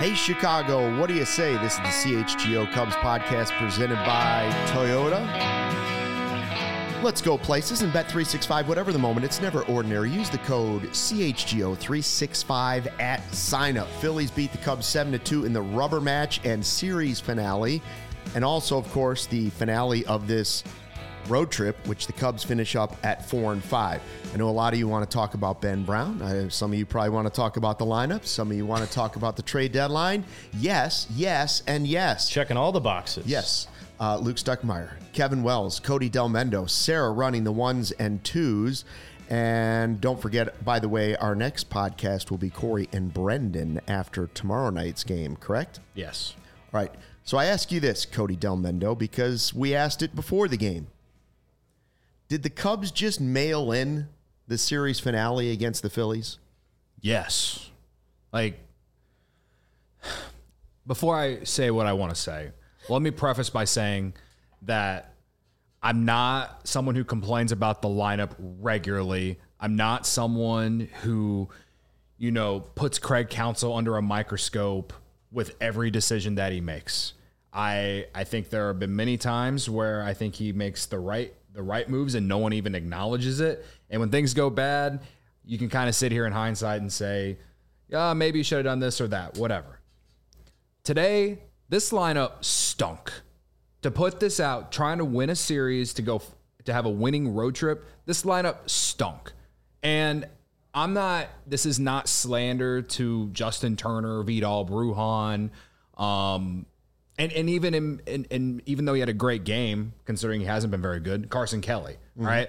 Hey, Chicago, what do you say? This is the CHGO Cubs podcast presented by Toyota. Let's go places and bet 365, whatever the moment. It's never ordinary. Use the code CHGO365 at signup. Phillies beat the Cubs 7-2 in the rubber match and series finale. And also, of course, the finale of this road trip, which the Cubs finish up at 4-5. I know a lot of you want to talk about Ben Brown. Some of you probably want to talk about the lineup. Some of you want to talk about the trade deadline. Yes, and yes. Checking all the boxes. Yes. Luke Stuckmeyer, Kevin Wells, Cody Del Mendo, Sarah running the ones and twos. And don't forget, by the way, our next podcast will be Corey and Brendan after tomorrow night's game, correct? Yes. All right. So I ask you this, Cody Del Mendo, because we asked it before the game. Did the Cubs just mail in the series finale against the Phillies? Yes. Before I say what I want to say, let me preface by saying that I'm not someone who complains about the lineup regularly. I'm not someone who, puts Craig Counsell under a microscope with every decision that he makes. I think there have been many times where I think he makes the right moves and no one even acknowledges it. And when things go bad, you can kind of sit here in hindsight and say, yeah, maybe you should have done this or that, whatever. Today, this lineup stunk. To put this out, trying to win a series, to have a winning road trip, this lineup stunk. And this is not slander to Justin Turner, Vidal Brujan, and even even though he had a great game, considering he hasn't been very good, Carson Kelly, right?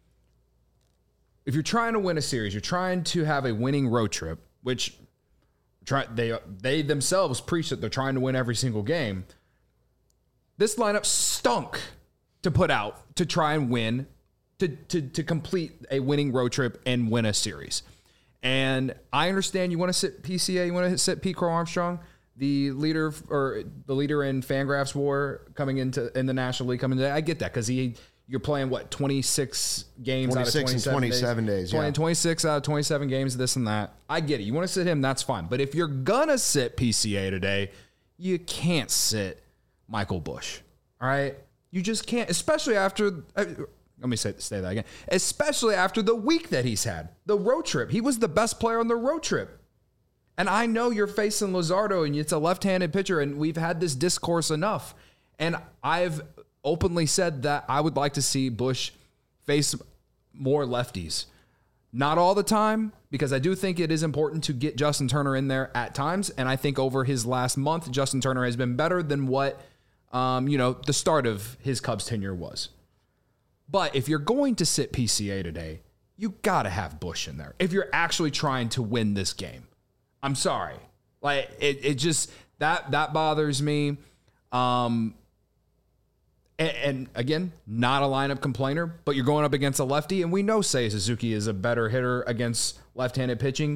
If you're trying to win a series, you're trying to have a winning road trip, which they themselves preach that they're trying to win every single game. This lineup stunk to put out to try and win, to complete a winning road trip and win a series. And I understand you want to sit PCA, you want to sit Pete Crow Armstrong, the leader in Fangraphs WAR in the National League coming today. I get that because you're playing 26 games out of 27 days. 26 out of 27 games, this and that. I get it. You want to sit him, that's fine. But if you're gonna sit PCA today, you can't sit Michael Busch. All right, you just can't, especially after. Let me say that again. Especially after the week that he's had, the road trip. He was the best player on the road trip. And I know you're facing Luzardo, and it's a left-handed pitcher, and we've had this discourse enough. And I've openly said that I would like to see Busch face more lefties. Not all the time, because I do think it is important to get Justin Turner in there at times. And I think over his last month, Justin Turner has been better than what, the start of his Cubs tenure was. But if you're going to sit PCA today, you got to have Busch in there if you're actually trying to win this game. I'm sorry. It just, that bothers me. And again, not a lineup complainer, but you're going up against a lefty, and we know Seiya Suzuki is a better hitter against left-handed pitching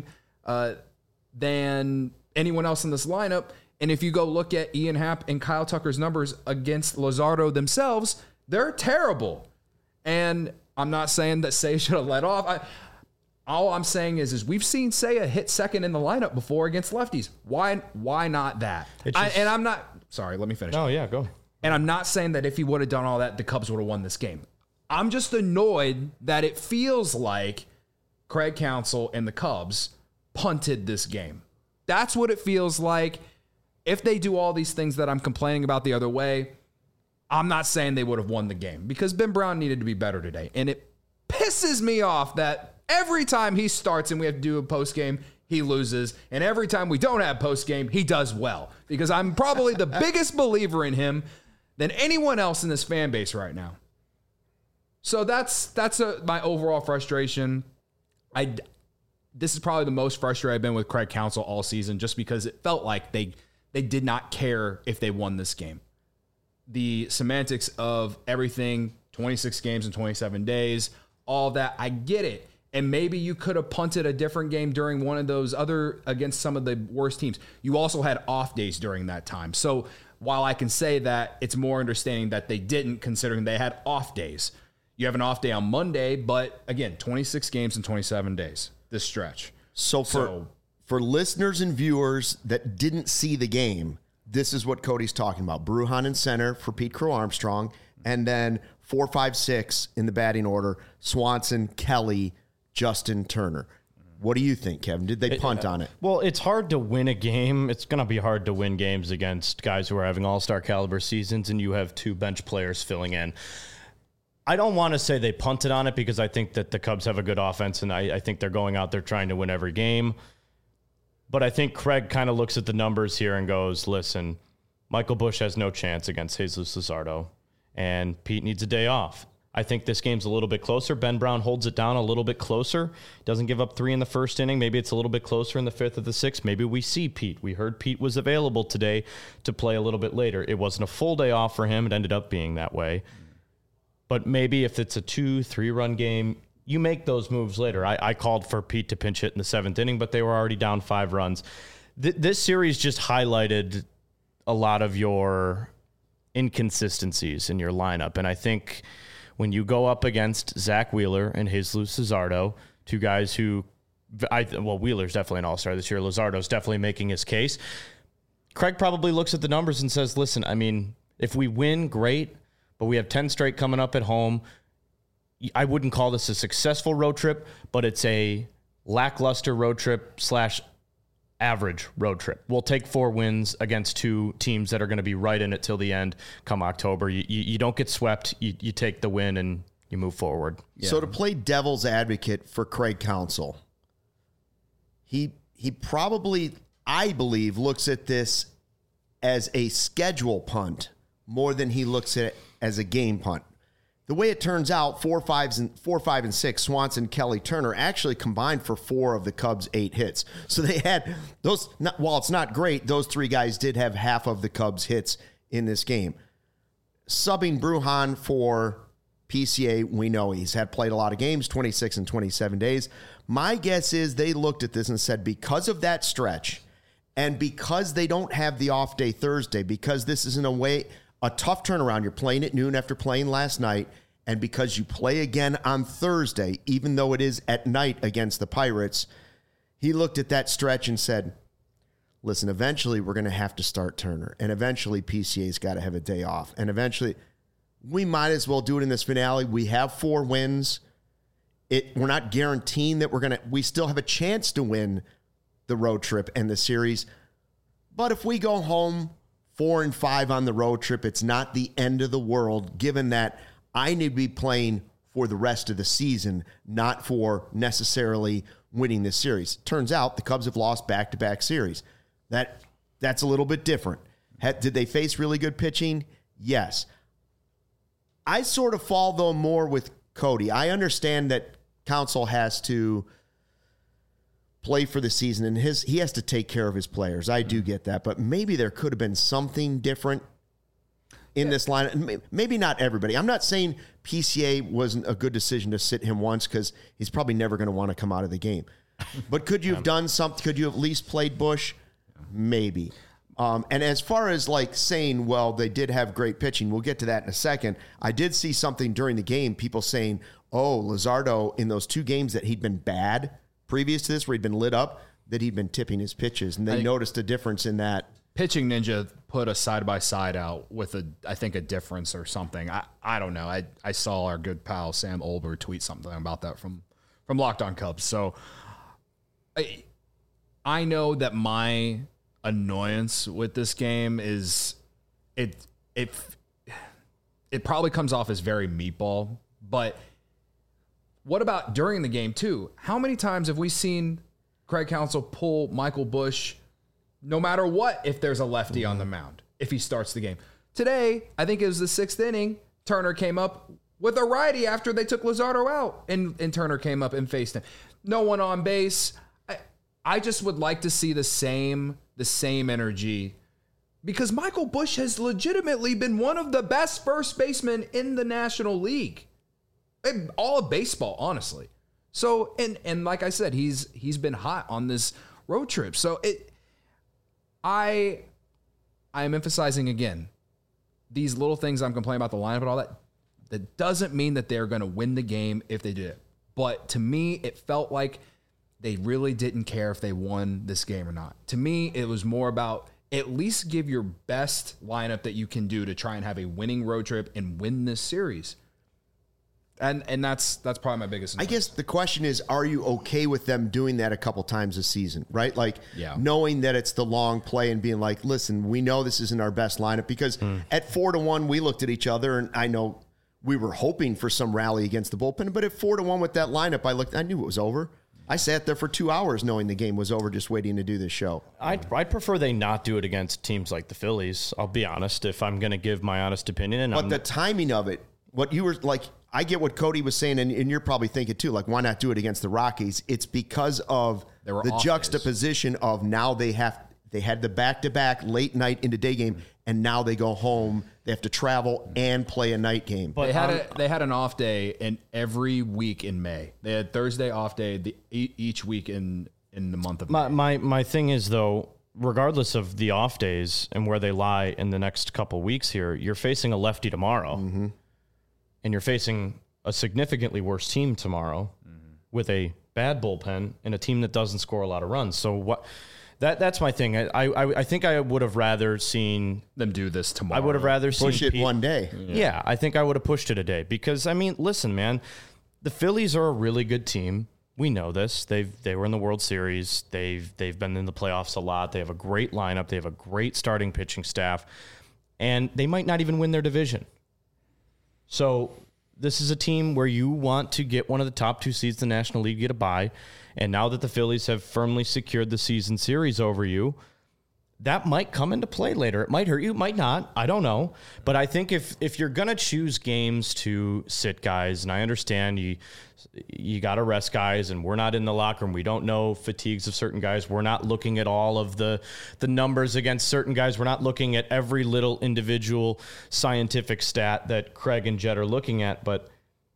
than anyone else in this lineup. And if you go look at Ian Happ and Kyle Tucker's numbers against Luzardo themselves, they're terrible. And I'm not saying that Seiya should have let off. All I'm saying is we've seen Seiya hit second in the lineup before against lefties. Why not that? And I'm not... Sorry, let me finish. Oh, yeah, go. And I'm not saying that if he would have done all that, the Cubs would have won this game. I'm just annoyed that it feels like Craig Counsell and the Cubs punted this game. That's what it feels like. If they do all these things that I'm complaining about the other way, I'm not saying they would have won the game because Ben Brown needed to be better today. And it pisses me off that every time he starts and we have to do a postgame, he loses. And every time we don't have postgame, he does well. Because I'm probably the biggest believer in him than anyone else in this fan base right now. So that's my overall frustration. This is probably the most frustrated I've been with Craig Counsell all season, just because it felt like they did not care if they won this game. The semantics of everything, 26 games in 27 days, all that, I get it. And maybe you could have punted a different game during one of those other, against some of the worst teams. You also had off days during that time. So while I can say that, it's more understanding that they didn't, considering they had off days. You have an off day on Monday, but again, 26 games in 27 days, this stretch. So For listeners and viewers that didn't see the game, this is what Cody's talking about. Bruhan in center for Pete Crow Armstrong, and then 4, 5, 6 in the batting order, Swanson, Kelly, Justin Turner. What do you think, Kevin? Did they punt on it? Well, it's hard to win a game. It's going to be hard to win games against guys who are having all-star caliber seasons, and you have 2 bench players filling in. I don't want to say they punted on it because I think that the Cubs have a good offense, and I think they're going out there trying to win every game. But I think Craig kind of looks at the numbers here and goes, listen, Michael Busch has no chance against Jesus Luzardo, and Pete needs a day off. I think this game's a little bit closer. Ben Brown holds it down a little bit closer. Doesn't give up 3 in the first inning. Maybe it's a little bit closer in the 5th or the 6th. Maybe we see Pete. We heard Pete was available today to play a little bit later. It wasn't a full day off for him. It ended up being that way. But maybe if it's a 2-3 run game, you make those moves later. I called for Pete to pinch hit in the 7th inning, but they were already down 5 runs. This series just highlighted a lot of your inconsistencies in your lineup. And I think when you go up against Zach Wheeler and Jesus Luzardo, 2 guys who, Wheeler's definitely an all-star this year. Luzardo's definitely making his case. Craig probably looks at the numbers and says, listen, I mean, if we win, great, but we have 10 straight coming up at home. I wouldn't call this a successful road trip, but it's a lackluster road trip / average road trip. We'll take 4 wins against 2 teams that are going to be right in it till the end come October. You don't get swept. You take the win and you move forward. Yeah. So to play devil's advocate for Craig Counsell, he probably, I believe, looks at this as a schedule punt more than he looks at it as a game punt. The way it turns out, 4, 5, and 6, Swanson, Kelly, Turner actually combined for 4 of the Cubs' 8 hits. So they had those, while it's not great, those 3 guys did have half of the Cubs' hits in this game. Subbing Bruhan for PCA, we know he's played a lot of games, 26 and 27 days. My guess is they looked at this and said, because of that stretch, and because they don't have the off day Thursday, because this is in a way a tough turnaround. You're playing at noon after playing last night, and because you play again on Thursday, even though it is at night against the Pirates, he looked at that stretch and said, listen, eventually we're going to have to start Turner, and eventually PCA's got to have a day off, and eventually we might as well do it in this finale. We have 4 wins. We're not guaranteeing that we still have a chance to win the road trip and the series, but if we go home 4 and 5 on the road trip, it's not the end of the world, given that I need to be playing for the rest of the season, not for necessarily winning this series. Turns out the Cubs have lost back-to-back series. That's a little bit different. Did they face really good pitching? Yes. I sort of fall, though, more with Cody. I understand that Counsell has to play for the season, and he has to take care of his players. I do get that, but maybe there could have been something different in this line. Maybe not everybody. I'm not saying PCA wasn't a good decision to sit him once because he's probably never going to want to come out of the game. But could you have done something? Could you have at least played Busch? Maybe. And as far as like saying, well, they did have great pitching, we'll get to that in a second. I did see something during the game, people saying, oh, Luzardo in those 2 games that he'd been bad previous to this, where he'd been lit up, that he'd been tipping his pitches, and they noticed a difference in that. Pitching Ninja put a side-by-side out with I think a difference or something. I don't know. I saw our good pal Sam Olber tweet something about that from Locked On Cubs. So I know that my annoyance with this game is it probably comes off as very meatball, but what about during the game, too? How many times have we seen Craig Counsell pull Michael Busch, no matter what, if there's a lefty on the mound, if he starts the game? Today, I think it was the 6th inning, Turner came up with a righty after they took Luzardo out, and Turner came up and faced him. No one on base. I just would like to see the same energy, because Michael Busch has legitimately been one of the best first basemen in the National League. All of baseball, honestly. So, and like I said, he's been hot on this road trip. So I am emphasizing again, these little things I'm complaining about the lineup and all that doesn't mean that they're going to win the game if they do it. But to me, it felt like they really didn't care if they won this game or not. To me, it was more about at least give your best lineup that you can do to try and have a winning road trip and win this series. And that's probably my biggest annoyance. I guess the question is, are you okay with them doing that a couple times this season, right? Like knowing that it's the long play and being like, listen, we know this isn't our best lineup, because at 4-1, we looked at each other, and I know we were hoping for some rally against the bullpen, but at 4-1 with that lineup, I knew it was over. I sat there for 2 hours knowing the game was over, just waiting to do this show. I'd prefer they not do it against teams like the Phillies. I'll be honest, if I'm going to give my honest opinion. But the timing of it, what you were like, I get what Cody was saying, and you're probably thinking too, like, why not do it against the Rockies? It's because of the juxtaposition of now they had the back-to-back late night into day game, and now they go home. They have to travel and play a night game. But they had an off day in every week in May. They had Thursday off day each week in the month of May. My thing is, though, regardless of the off days and where they lie in the next couple weeks here, you're facing a lefty tomorrow, and you're facing a significantly worse team tomorrow with a bad bullpen and a team that doesn't score a lot of runs. So what? That's my thing. I think I would have rather seen them do this tomorrow. I would have rather push it one day. Yeah, I think I would have pushed it a day, because I mean, listen, man, the Phillies are a really good team. We know this. They were in the World Series. They've been in the playoffs a lot. They have a great lineup. They have a great starting pitching staff, and they might not even win their division. So this is a team where you want to get one of the top 2 seeds in the National League, get a bye. And now that the Phillies have firmly secured the season series over you, that might come into play later. It might hurt you, it might not. I don't know. But I think if you're going to choose games to sit guys, and I understand you got to rest guys, and we're not in the locker room. We don't know fatigues of certain guys. We're not looking at all of the numbers against certain guys. We're not looking at every little individual scientific stat that Craig and Jed are looking at. But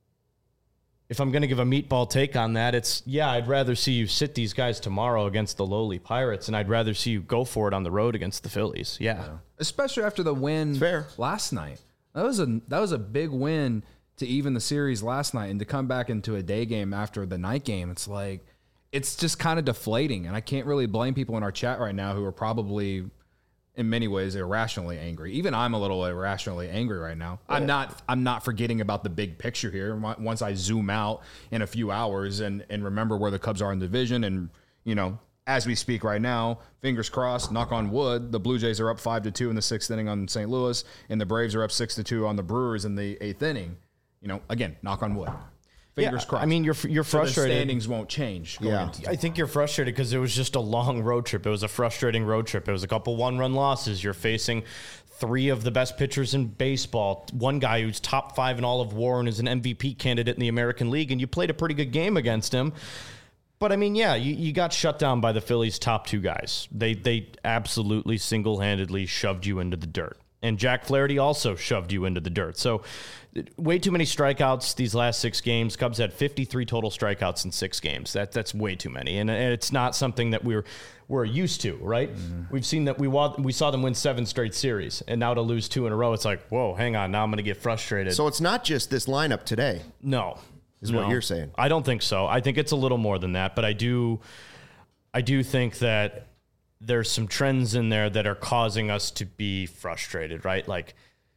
if I'm going to give a meatball take on that, I'd rather see you sit these guys tomorrow against the lowly Pirates, and I'd rather see you go for it on the road against the Phillies. Yeah. Especially after the win last night. That was a big win to even the series last night, and to come back into a day game after the night game, it's just kind of deflating. And I can't really blame people in our chat right now who are probably in many ways irrationally angry. Even I'm a little irrationally angry right now. Yeah. I'm not forgetting about the big picture here. Once I zoom out in a few hours and remember where the Cubs are in the division, and as we speak right now, fingers crossed, knock on wood, the Blue Jays are up 5-2 in the 6th inning on St. Louis, and the Braves are up 6-2 on the Brewers in the 8th inning. Again, knock on wood. Fingers crossed. I mean, you're frustrated. So the standings won't change. I think you're frustrated because it was just a long road trip. It was a frustrating road trip. It was a couple 1-run losses. You're facing 3 of the best pitchers in baseball. One guy who's top 5 in all of WAR and is an MVP candidate in the American League, and you played a pretty good game against him. But I mean, you got shut down by the Phillies' top 2 guys. They absolutely single-handedly shoved you into the dirt. And Jack Flaherty also shoved you into the dirt. So way too many strikeouts these last 6 games. Cubs had 53 total strikeouts in 6 games. That's way too many. And it's not something that we're used to, right? Mm-hmm. We've seen that we saw them win 7 straight series. And now to lose 2 in a row, it's like, whoa, hang on. Now I'm going to get frustrated. So it's not just this lineup today. No. Is what you're saying. I don't think so. I think it's a little more than that. But I do think that there's some trends in there that are causing us to be frustrated, right? Like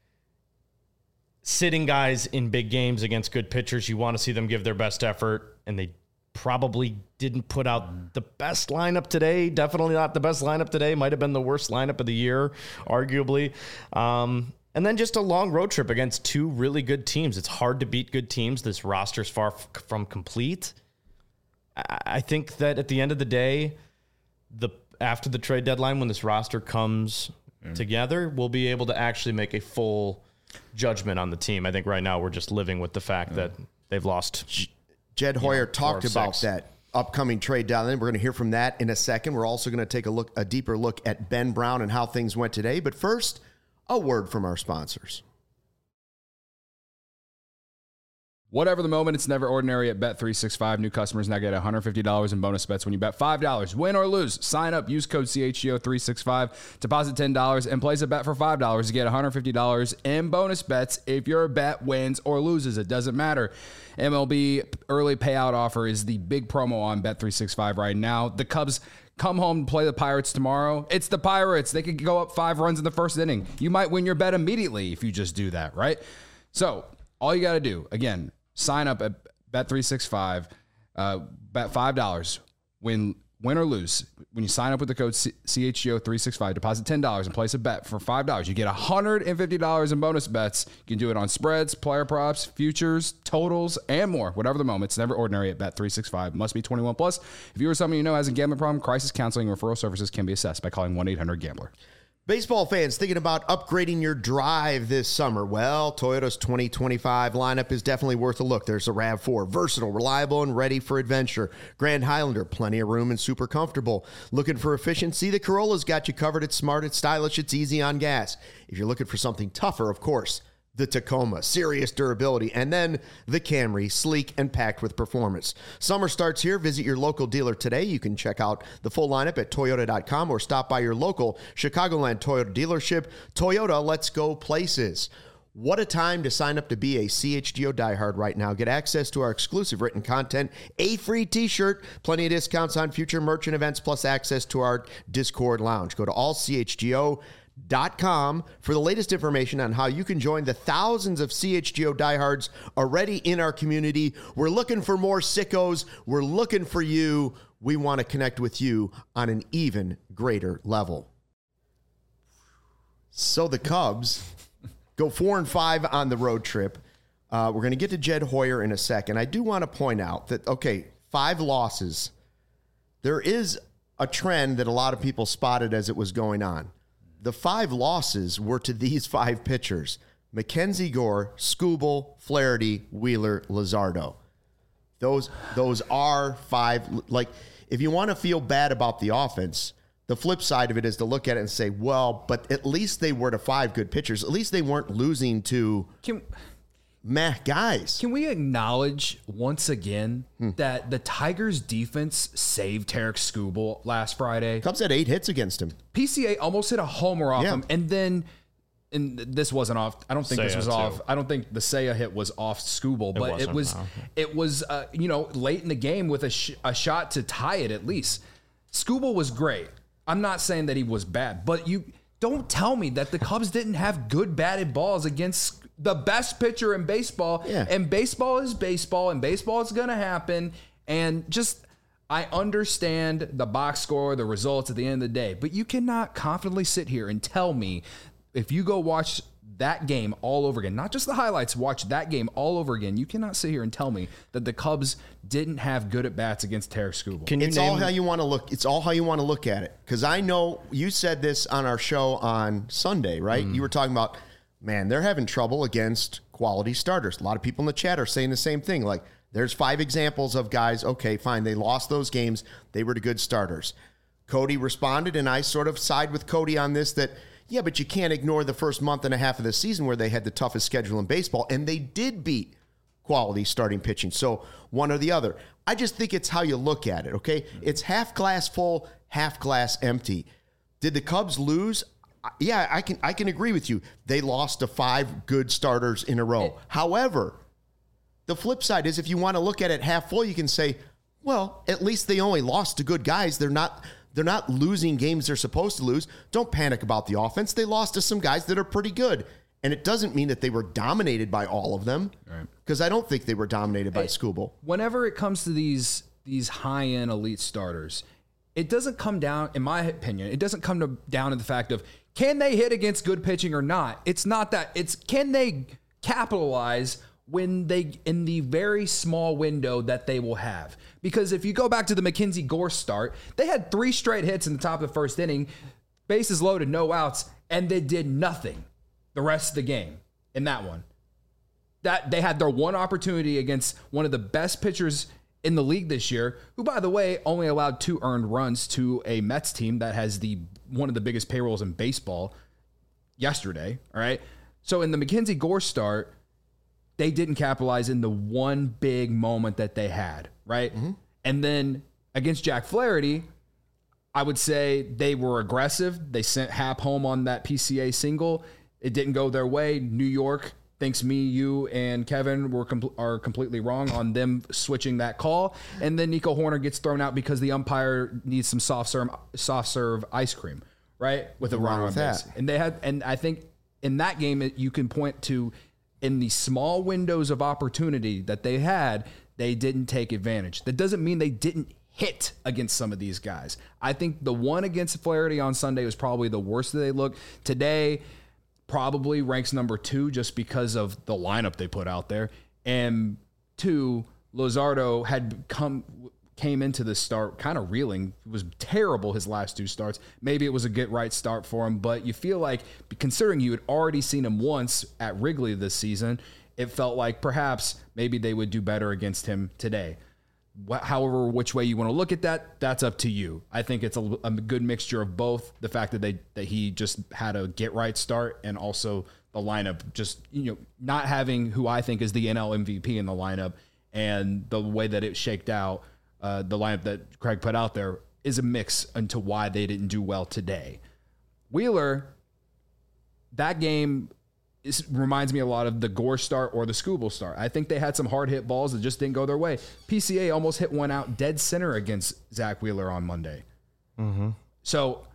sitting guys in big games against good pitchers, you want to see them give their best effort, and they probably didn't put out the best lineup today. Definitely not the best lineup today. Might have been the worst lineup of the year, arguably. And then just a long road trip against 2 really good teams. It's hard to beat good teams. This roster's far from complete. I think that at the end of the day, after the trade deadline, when this roster comes together, we'll be able to actually make a full judgment on the team. I think right now we're just living with the fact that they've lost. Jed Hoyer talked about that upcoming trade deadline. We're going to hear from that in a second. We're also going to take a deeper look at Ben Brown and how things went today. But first, a word from our sponsors. Whatever the moment, it's never ordinary at Bet365. New customers now get $150 in bonus bets when you bet $5. Win or lose, sign up, use code CHGO365, deposit $10, and place a bet for $5 to get $150 in bonus bets if your bet wins or loses. It doesn't matter. MLB early payout offer is the big promo on Bet365 right now. The Cubs come home and play the Pirates tomorrow. It's the Pirates. They could go up 5 runs in the first inning. You might win your bet immediately if you just do that, right? So all you got to do, again, sign up at Bet365, bet $5, win or lose. When you sign up with the code CHGO365, deposit $10 and place a bet for $5. You get $150 in bonus bets. You can do it on spreads, player props, futures, totals, and more. Whatever the moment, it's never ordinary at Bet365. Must be 21 plus. If you or someone you know has a gambling problem, crisis counseling and referral services can be assessed by calling 1-800-GAMBLER. Baseball fans thinking about upgrading your drive this summer? Well, Toyota's 2025 lineup is definitely worth a look. There's a RAV4, versatile, reliable, and ready for adventure. Grand Highlander, plenty of room and super comfortable. Looking for efficiency? The Corolla's got you covered. It's smart, it's stylish, it's easy on gas. If you're looking for something tougher, of course, the Tacoma, serious durability, and then the Camry, sleek and packed with performance. Summer starts here. Visit your local dealer today. You can check out the full lineup at Toyota.com or stop by your local Chicagoland Toyota dealership. Toyota, let's go places. What a time to sign up to be a CHGO diehard right now. Get access to our exclusive written content, a free t-shirt, plenty of discounts on future merch and events, plus access to our Discord lounge. Go to allchgo.com for the latest information on how you can join the thousands of CHGO diehards already in our community. We're looking for more sickos. We're looking for you. We want to connect with you on an even greater level. So the Cubs go 4-5 on the road trip. We're going to get to Jed Hoyer in a second. I do want to point out that, 5 losses. There is a trend that a lot of people spotted as it was going on. The 5 losses were to these 5 pitchers: Mackenzie Gore, Skubal, Flaherty, Wheeler, Luzardo. Those are 5. Like, if you want to feel bad about the offense, the flip side of it is to look at it and say, well, but at least they were to 5 good pitchers. At least they weren't losing to guys. Can we acknowledge once again that the Tigers defense saved Tarek Skubal last Friday? Cubs had 8 hits against him. PCA almost hit a homer off him, and then this wasn't off. I don't think this was off. I don't think the Seiya hit was off Skubal, but it was late in the game with a shot to tie it at least. Skubal was great. I'm not saying that he was bad, but you don't tell me that the Cubs didn't have good batted balls against the best pitcher in baseball. Yeah. And baseball is baseball, and baseball is going to happen. And I understand the box score, the results at the end of the day, but you cannot confidently sit here and tell me, if you go watch that game all over again, not just the highlights, watch that game all over again, you cannot sit here and tell me that the Cubs didn't have good at bats against Tarek Skubal. It's all how you want to look. It's all how you want to look at it. Because I know you said this on our show on Sunday, right? You were talking about, man, they're having trouble against quality starters. A lot of people in the chat are saying the same thing. Like, there's 5 examples of guys, okay, fine, they lost those games. They were the good starters. Cody responded, and I sort of side with Cody on this, that, yeah, but you can't ignore the first month and a half of the season where they had the toughest schedule in baseball, and they did beat quality starting pitching. So one or the other. I just think it's how you look at it, okay? It's half glass full, half glass empty. Did the Cubs lose? Yeah, I can agree with you. They lost to 5 good starters in a row. However, the flip side is, if you want to look at it half full, you can say, well, at least they only lost to good guys. They're not losing games they're supposed to lose. Don't panic about the offense. They lost to some guys that are pretty good. And it doesn't mean that they were dominated by all of them, because I don't think they were dominated by Skubal. Whenever it comes to these high-end elite starters, it doesn't come down, in my opinion, down to the fact of, can they hit against good pitching or not? It's not that. It's, can they capitalize when they, in the very small window that they will have? Because if you go back to the Mackenzie Gore start, they had 3 straight hits in the top of the first inning, bases loaded, no outs, and they did nothing the rest of the game in that one. That they had their one opportunity against one of the best pitchers in the league this year, who, by the way, only allowed 2 earned runs to a Mets team that has one of the biggest payrolls in baseball yesterday. All right. So in the Mackenzie Gore start, they didn't capitalize in the one big moment that they had, right? Mm-hmm. And then against Jack Flaherty, I would say they were aggressive. They sent Happ home on that PCA single. It didn't go their way. New York thinks me, you, and Kevin are completely wrong on them switching that call. And then Nico Horner gets thrown out because the umpire needs some soft serve ice cream, right? With a runner on base. And I think in that game, you can point to in the small windows of opportunity that they had, they didn't take advantage. That doesn't mean they didn't hit against some of these guys. I think the one against Flaherty on Sunday was probably the worst that they looked. Today, probably ranks number 2 just because of the lineup they put out there. And 2, Luzardo came into this start kind of reeling. It was terrible his last 2 starts. Maybe it was a get right start for him, but you feel like, considering you had already seen him once at Wrigley this season, it felt like perhaps maybe they would do better against him today. However, which way you want to look at that, that's up to you. I think it's a good mixture of both. The fact that he just had a get right start, and also the lineup just, not having who I think is the NL MVP in the lineup, and the way that it shaked out, the lineup that Craig put out there is a mix into why they didn't do well today. Wheeler, that game reminds me a lot of the Gore start or the Skubal start. I think they had some hard hit balls that just didn't go their way. PCA almost hit one out dead center against Zach Wheeler on Monday. Mm-hmm. So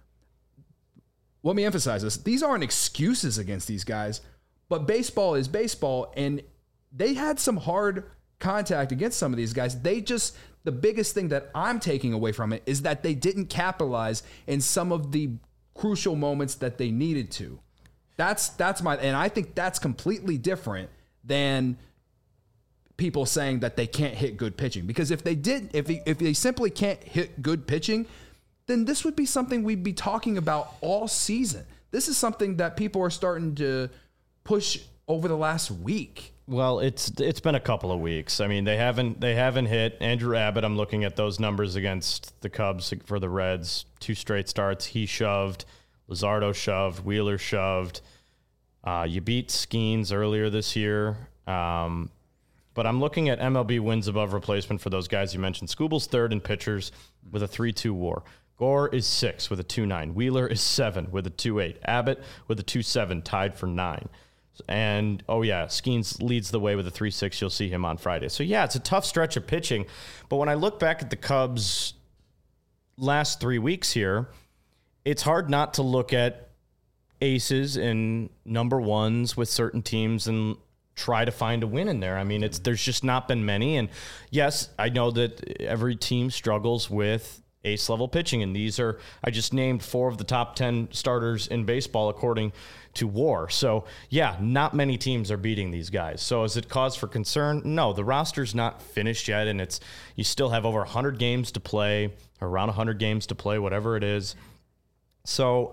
let me emphasize this. These aren't excuses against these guys, but baseball is baseball, and they had some hard contact against some of these guys. The biggest thing that I'm taking away from it is that they didn't capitalize in some of the crucial moments that they needed to. And I think that's completely different than people saying that they can't hit good pitching. Because if they simply can't hit good pitching, then this would be something we'd be talking about all season. This is something that people are starting to push over the last week. Well, it's been a couple of weeks. I mean, they haven't hit. Andrew Abbott, I'm looking at those numbers against the Cubs for the Reds. 2 straight starts. He shoved. Luzardo shoved. Wheeler shoved. You beat Skeens earlier this year. But I'm looking at MLB wins above replacement for those guys you mentioned. Skubal's 3rd in pitchers with a 3.2 WAR. Gore is 6 with a 2.9. Wheeler is 7 with a 2.8. Abbott with a 2.7, tied for 9. And, Skeens leads the way with a 3.6. You'll see him on Friday. So, it's a tough stretch of pitching. But when I look back at the Cubs' last 3 weeks here, it's hard not to look at aces and number ones with certain teams and try to find a win in there. I mean, there's just not been many. And yes, I know that every team struggles with ace level pitching. And I just named 4 of the top 10 starters in baseball according to WAR. So not many teams are beating these guys. So is it cause for concern? No, the roster's not finished yet. And you still have over 100 games to play, or around 100 games to play, whatever it is. So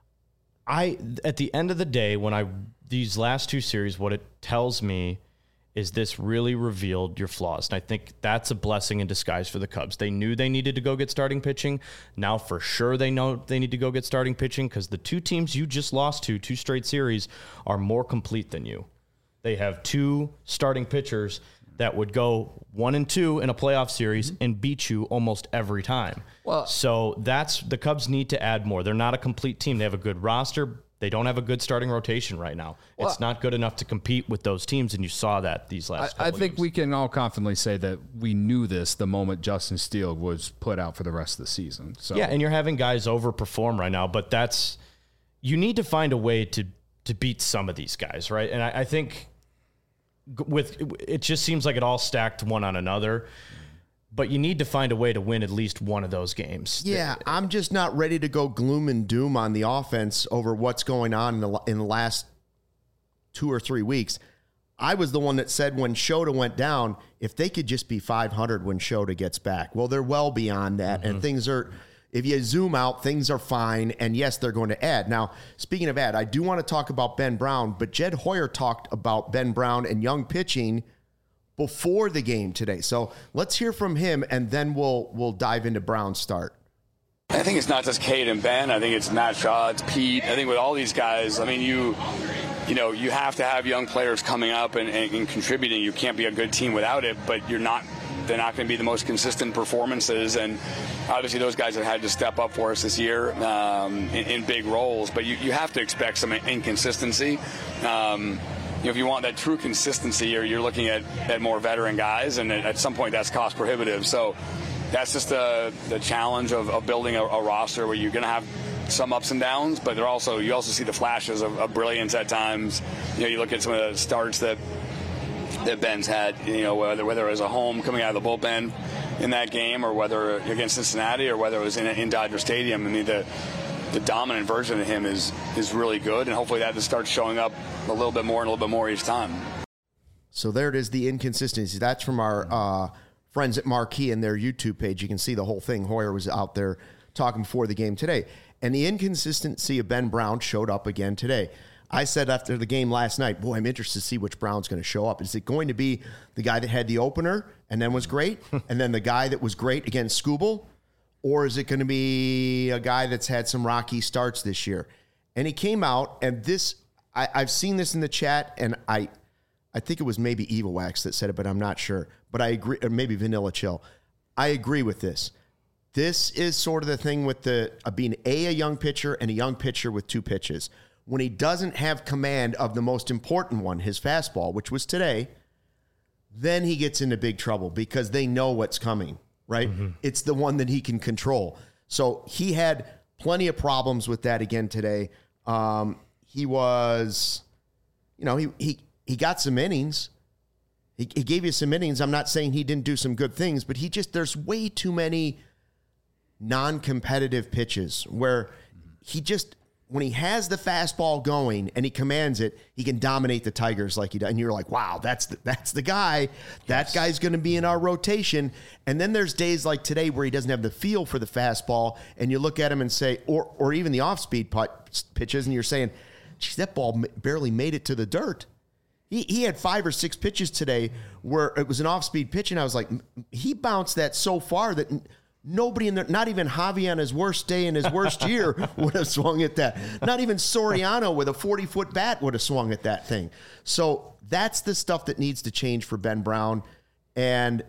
at the end of the day, these last 2 series, what it tells me is this really revealed your flaws. And I think that's a blessing in disguise for the Cubs. They knew they needed to go get starting pitching. Now for sure they know they need to go get starting pitching, because the 2 teams you just lost to, 2 straight series, are more complete than you. They have 2 starting pitchers that would go 1-2 in a playoff series and beat you almost every time. Well, so the Cubs need to add more. They're not a complete team. They have a good roster. They don't have a good starting rotation right now. Well, it's not good enough to compete with those teams, and you saw that these last couple I think games. We can all confidently say that we knew this the moment Justin Steele was put out for the rest of the season. So and you're having guys overperform right now, but you need to find a way to beat some of these guys, right? And I think it just seems like it all stacked one on another. But you need to find a way to win at least one of those games. Yeah, I'm just not ready to go gloom and doom on the offense over what's going on in the last 2 or 3 weeks. I was the one that said when Shota went down, if they could just be 500 when Shota gets back. Well, they're well beyond that, and things are, if you zoom out, things are fine, and yes, they're going to add. Now, speaking of add, I do want to talk about Ben Brown, but Jed Hoyer talked about Ben Brown and young pitching before the game today. So let's hear from him, and then we'll dive into Brown's start. I think it's not just Cade and Ben. I think it's Matt Shaw, it's Pete. I think with all these guys, I mean, you you have to have young players coming up and contributing. You can't be a good team without it, but they're not going to be the most consistent performances. And obviously those guys have had to step up for us this year in big roles, but you have to expect some inconsistency. If you want that true consistency, you're looking at more veteran guys, and at some point that's cost prohibitive. So that's just the challenge of building a roster where you're going to have some ups and downs, but you also see the flashes of brilliance at times. You look at some of the starts that Ben's had, whether it was a home coming out of the bullpen in that game, or whether against Cincinnati, or whether it was in Dodger Stadium. I mean, the dominant version of him is really good, and hopefully that just starts showing up a little bit more each time. So there it is, the inconsistency. That's from our friends at Marquee and their YouTube page. You can see the whole thing. Hoyer was out there talking before the game today. And the inconsistency of Ben Brown showed up again today. I said after the game last night, boy, I'm interested to see which Brown's going to show up. Is it going to be the guy that had the opener and then was great, and then the guy that was great against Skubal? Or is it going to be a guy that's had some rocky starts this year? And he came out, and I've seen this in the chat, and I think it was maybe Evil Wax that said it, but I'm not sure. But I agree, or maybe Vanilla Chill. I agree with this. This is sort of the thing with being a young pitcher and a young pitcher with two pitches. When he doesn't have command of the most important one, his fastball, which was today, then he gets into big trouble because they know what's coming, right? Mm-hmm. It's the one that he can control. So he had plenty of problems with that again today. He was, he got some innings. He gave you some innings. I'm not saying he didn't do some good things, but there's way too many non-competitive pitches where when he has the fastball going and he commands it, he can dominate the Tigers like he does. And you're like, wow, that's the guy. That guy's going to be in our rotation. And then there's days like today where he doesn't have the feel for the fastball, and you look at him and say, or even the off-speed pitches, and you're saying, geez, that ball barely made it to the dirt. He had 5 or 6 pitches today where it was an off-speed pitch, and I was like, he bounced that so far that nobody in there, not even Javi on his worst day in his worst year would have swung at that. Not even Soriano with a 40-foot bat would have swung at that thing. So that's the stuff that needs to change for Ben Brown. And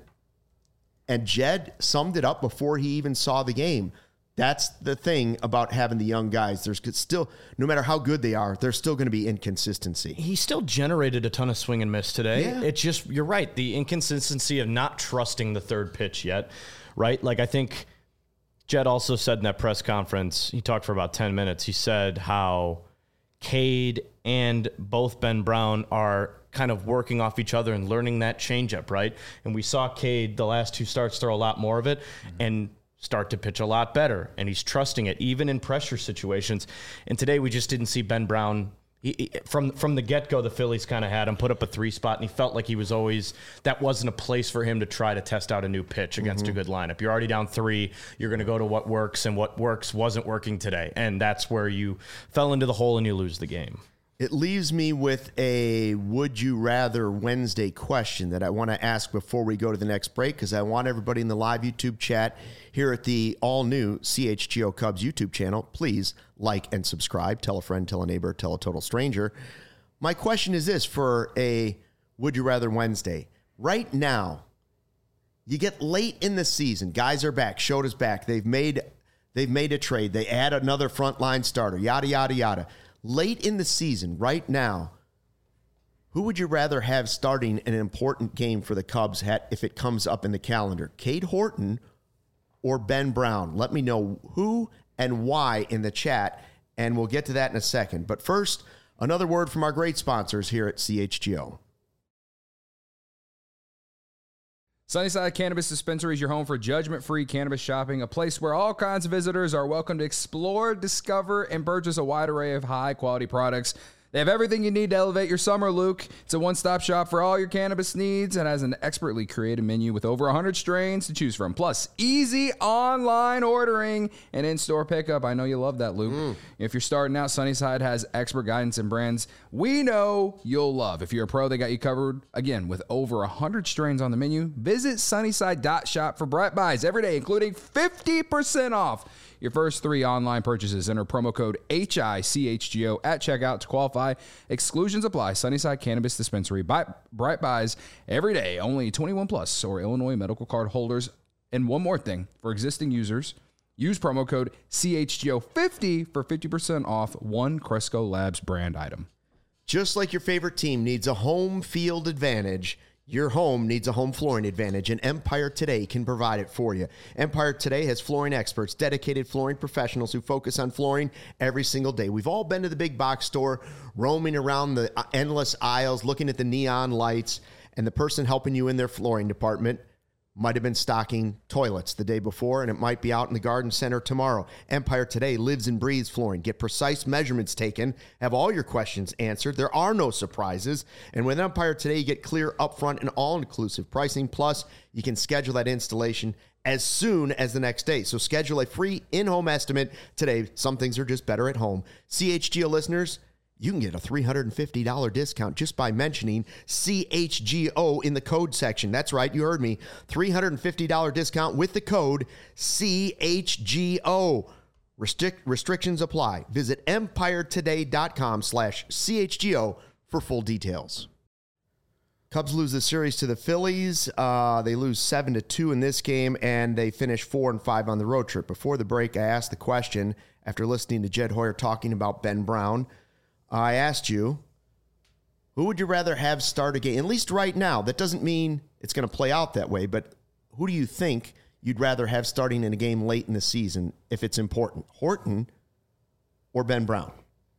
Jed summed it up before he even saw the game. That's the thing about having the young guys. There's still, no matter how good they are, there's still going to be inconsistency. He still generated a ton of swing and miss today. Yeah. It's just, you're right, the inconsistency of not trusting the third pitch yet. Right? Like, I think Jed also said in that press conference, he talked for about 10 minutes. He said how Cade and both Ben Brown are kind of working off each other and learning that changeup, right? And we saw Cade the last 2 starts throw a lot more of it and start to pitch a lot better. And he's trusting it, even in pressure situations. And today we just didn't see Ben Brown. From the get-go, the Phillies kind of had him put up a 3 spot, and he felt like he was always, that wasn't a place for him to try to test out a new pitch against a good lineup. You're already down 3. You're going to go to what works, and what works wasn't working today. And that's where you fell into the hole and you lose the game. It leaves me with a would you rather Wednesday question that I want to ask before we go to the next break, because I want everybody in the live YouTube chat here at the all-new CHGO Cubs YouTube channel, please like and subscribe. Tell a friend, tell a neighbor, tell a total stranger. My question is this for a would you rather Wednesday. Right now, you get late in the season. Guys are back. Shota's back. They've made a trade. They add another frontline starter, yada, yada, yada. Late in the season, right now, who would you rather have starting an important game for the Cubs if it comes up in the calendar? Cade Horton or Ben Brown? Let me know who and why in the chat, and we'll get to that in a second. But first, another word from our great sponsors here at CHGO. Sunnyside Cannabis Dispensary is your home for judgment-free cannabis shopping, a place where all kinds of visitors are welcome to explore, discover, and purchase a wide array of high-quality products. They have everything you need to elevate your summer, Luke. It's a one-stop shop for all your cannabis needs and has an expertly created menu with over 100 strains to choose from. Plus, easy online ordering and in-store pickup. I know you love that, Luke. If you're starting out, Sunnyside has expert guidance and brands we know you'll love. If you're a pro, they got you covered. Again, with over 100 strains on the menu, visit sunnyside.shop for bright buys every day, including 50% off your first 3 online purchases. Enter promo code HICHGO at checkout to qualify. Exclusions apply. Sunnyside Cannabis Dispensary. Bright buys every day. Only 21 plus or Illinois medical card holders. And one more thing. For existing users, use promo code CHGO50 for 50% off one Cresco Labs brand item. Just like your favorite team needs a home field advantage, your home needs a home flooring advantage, and Empire Today can provide it for you. Empire Today has flooring experts, dedicated flooring professionals who focus on flooring every single day. We've all been to the big box store, roaming around the endless aisles, looking at the neon lights, and the person helping you in their flooring department might have been stocking toilets the day before, and it might be out in the garden center tomorrow. Empire Today lives and breathes flooring. Get precise measurements taken, have all your questions answered. There are no surprises. And with Empire Today, you get clear, upfront, and all-inclusive pricing. Plus, you can schedule that installation as soon as the next day. So schedule a free in-home estimate today. Some things are just better at home. CHGO listeners, you can get a $350 discount just by mentioning CHGO in the code section. That's right, you heard me. $350 discount with the code CHGO. Restrictions apply. Visit EmpireToday.com/CHGO for full details. Cubs lose the series to the Phillies. They lose 7-2 in this game, and they finish 4-5 on the road trip. Before the break, I asked the question, after listening to Jed Hoyer talking about Ben Brown, I asked you, who would you rather have start a game? At least right now. That doesn't mean it's going to play out that way, but who do you think you'd rather have starting in a game late in the season if it's important? Horton or Ben Brown?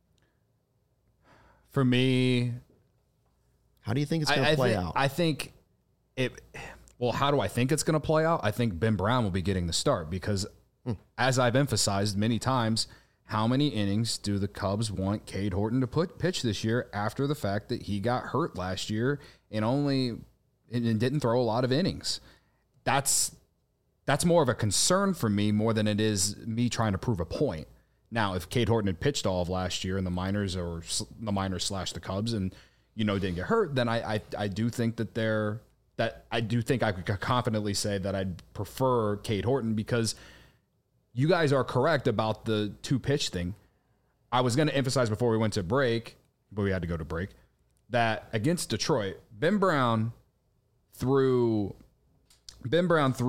For me, how do you think it's going to play out? I think how do I think it's going to play out? I think Ben Brown will be getting the start because, as I've emphasized many times, how many innings do the Cubs want Cade Horton to pitch this year after the fact that he got hurt last year and didn't throw a lot of innings? That's more of a concern for me more than it is me trying to prove a point. Now, if Cade Horton had pitched all of last year in the minors or the minors / the Cubs and didn't get hurt, then I do think I could confidently say that I'd prefer Cade Horton because you guys are correct about the 2-pitch thing. I was going to emphasize before we went to break, but we had to go to break, that against Detroit, Ben Brown threw 9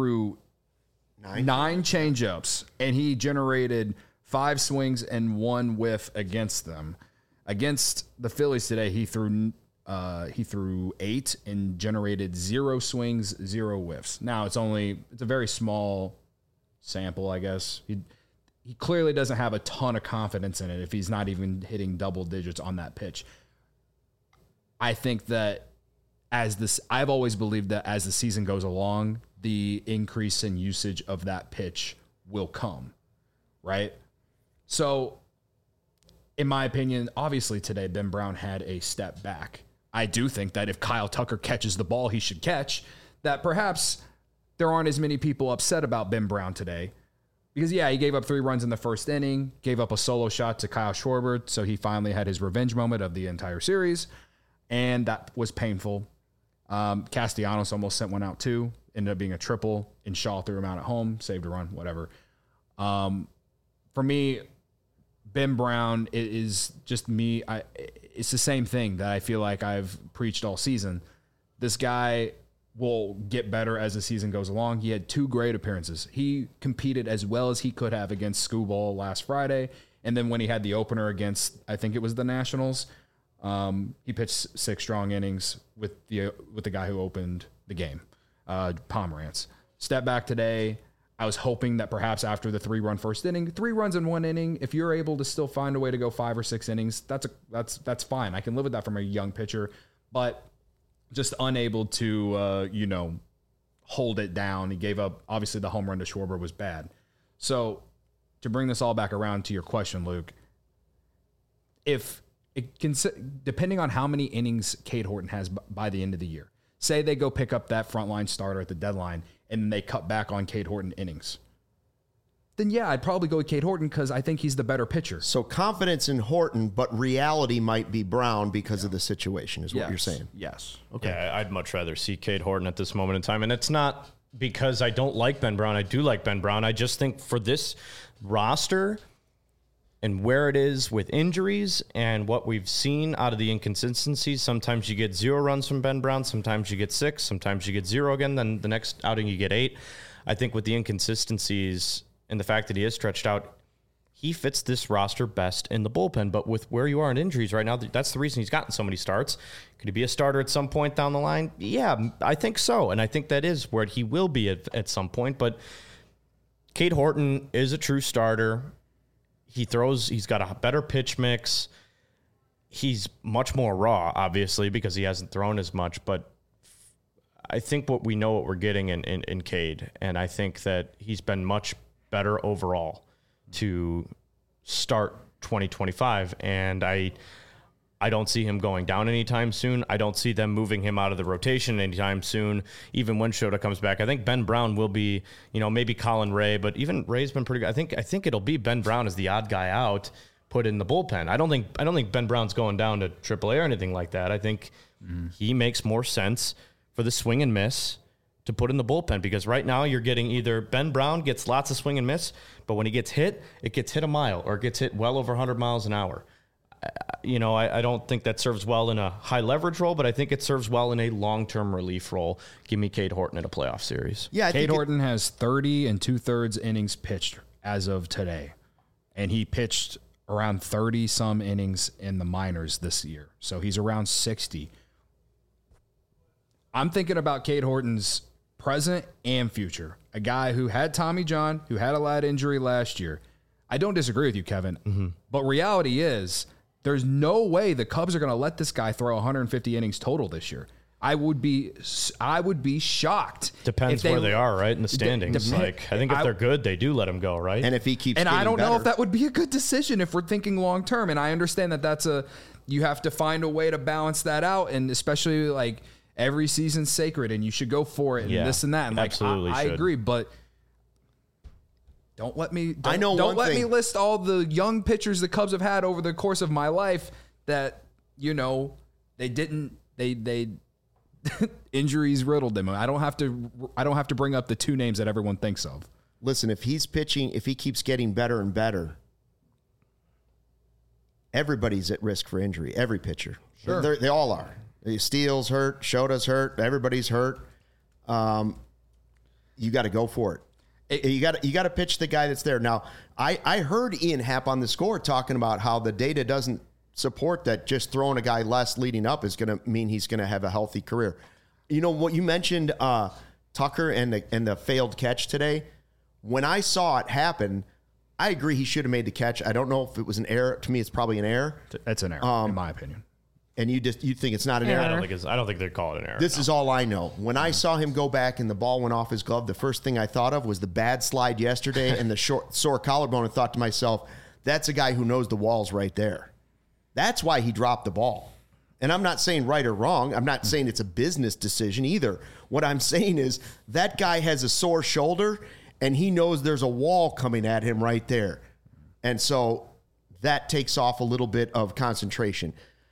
changeups, and he generated 5 swings and 1 whiff against them. Against the Phillies today, he threw 8 and generated 0 swings, 0 whiffs. Now it's a very small sample, I guess. He clearly doesn't have a ton of confidence in it if he's not even hitting double digits on that pitch. I think that I've always believed that as the season goes along, the increase in usage of that pitch will come, right? So, in my opinion, obviously today Ben Brown had a step back. I do think that if Kyle Tucker catches the ball he should catch, that perhaps there aren't as many people upset about Ben Brown today. Because, he gave up 3 runs in the first inning, gave up a solo shot to Kyle Schwarber, so he finally had his revenge moment of the entire series, and that was painful. Castellanos almost sent one out too, ended up being a triple, and Shaw threw him out at home, saved a run, whatever. For me, Ben Brown is just me. It's the same thing that I feel like I've preached all season. This guy will get better as the season goes along. He had 2 great appearances. He competed as well as he could have against Skubal last Friday. And then when he had the opener against, I think it was the Nationals, he pitched 6 strong innings with the guy who opened the game, Pomerantz. Step back today. I was hoping that perhaps after the 3-run first inning, 3 runs in 1 inning, if you're able to still find a way to go 5 or 6 innings, that's fine. I can live with that from a young pitcher, but just unable to, hold it down. He gave up, obviously the home run to Schwarber was bad. So to bring this all back around to your question, Luke, depending on how many innings Cade Horton has by the end of the year, say they go pick up that frontline starter at the deadline and they cut back on Cade Horton innings, then I'd probably go with Cade Horton because I think he's the better pitcher. So confidence in Horton, but reality might be Brown because of the situation, is what you're saying. Yes. Okay. Yeah, I'd much rather see Cade Horton at this moment in time. And it's not because I don't like Ben Brown. I do like Ben Brown. I just think for this roster and where it is with injuries and what we've seen out of the inconsistencies, sometimes you get 0 runs from Ben Brown, sometimes you get 6, sometimes you get 0 again, then the next outing you get 8. I think with the inconsistencies and the fact that he is stretched out, he fits this roster best in the bullpen. But with where you are in injuries right now, that's the reason he's gotten so many starts. Could he be a starter at some point down the line? Yeah, I think so. And I think that is where he will be at some point. But Cade Horton is a true starter. He's got a better pitch mix. He's much more raw, obviously, because he hasn't thrown as much. But I think what we're getting in Cade. And I think that he's been much better overall to start 2025, and I don't see him going down anytime soon. I don't see them moving him out of the rotation anytime soon, even when Shota comes back. I think Ben Brown will be, maybe Colin Ray, but even Ray's been pretty good. I think it'll be Ben Brown as the odd guy out, put in the bullpen. I don't think Ben Brown's going down to AAA or anything like that. I think he makes more sense for the swing and miss to put in the bullpen, because right now you're getting either Ben Brown gets lots of swing and miss, but when he gets hit, it gets hit a mile or it gets hit well over 100 miles an hour. I don't think that serves well in a high leverage role, but I think it serves well in a long-term relief role. Give me Cade Horton in a playoff series. Yeah, Cade Horton has 30 2/3 innings pitched as of today, and he pitched around 30-some innings in the minors this year, so he's around 60. I'm thinking about Cade Horton's present and future. A guy who had Tommy John, who had a lat injury last year. I don't disagree with you, Kevin, but reality is there's no way the Cubs are going to let this guy throw 150 innings total this year. I would be shocked. Depends where they are, right, in the standings. I think if they're good, they do let him go, right? And if he keeps and getting I don't better, know if that would be a good decision if we're thinking long term. And I understand that you have to find a way to balance that out, and especially like every season's sacred, and you should go for it, and this and that. And absolutely, I agree, but don't let me. Don't let me list all the young pitchers the Cubs have had over the course of my life that they didn't. They injuries riddled them. I don't have to bring up the 2 names that everyone thinks of. Listen, if he's pitching, if he keeps getting better and better, everybody's at risk for injury. Every pitcher, Sure. They all are. Steele's hurt, Shota's hurt, everybody's hurt. You got to go for it. You got to pitch the guy that's there. Now, I heard Ian Happ on The Score talking about how the data doesn't support that just throwing a guy less leading up is going to mean he's going to have a healthy career. You know what you mentioned, Tucker and the failed catch today. When I saw it happen, I agree he should have made the catch. I don't know if it was an error. To me, it's probably an error. That's an error, in my opinion. And you think it's not an error? I don't think they'd call it an error. This is all I know. When I saw him go back and the ball went off his glove, the first thing I thought of was the bad slide yesterday and the sore collarbone, and thought to myself, that's a guy who knows the wall's right there. That's why he dropped the ball. And I'm not saying right or wrong. I'm not saying it's a business decision either. What I'm saying is that guy has a sore shoulder, and he knows there's a wall coming at him right there. And so that takes off a little bit of concentration.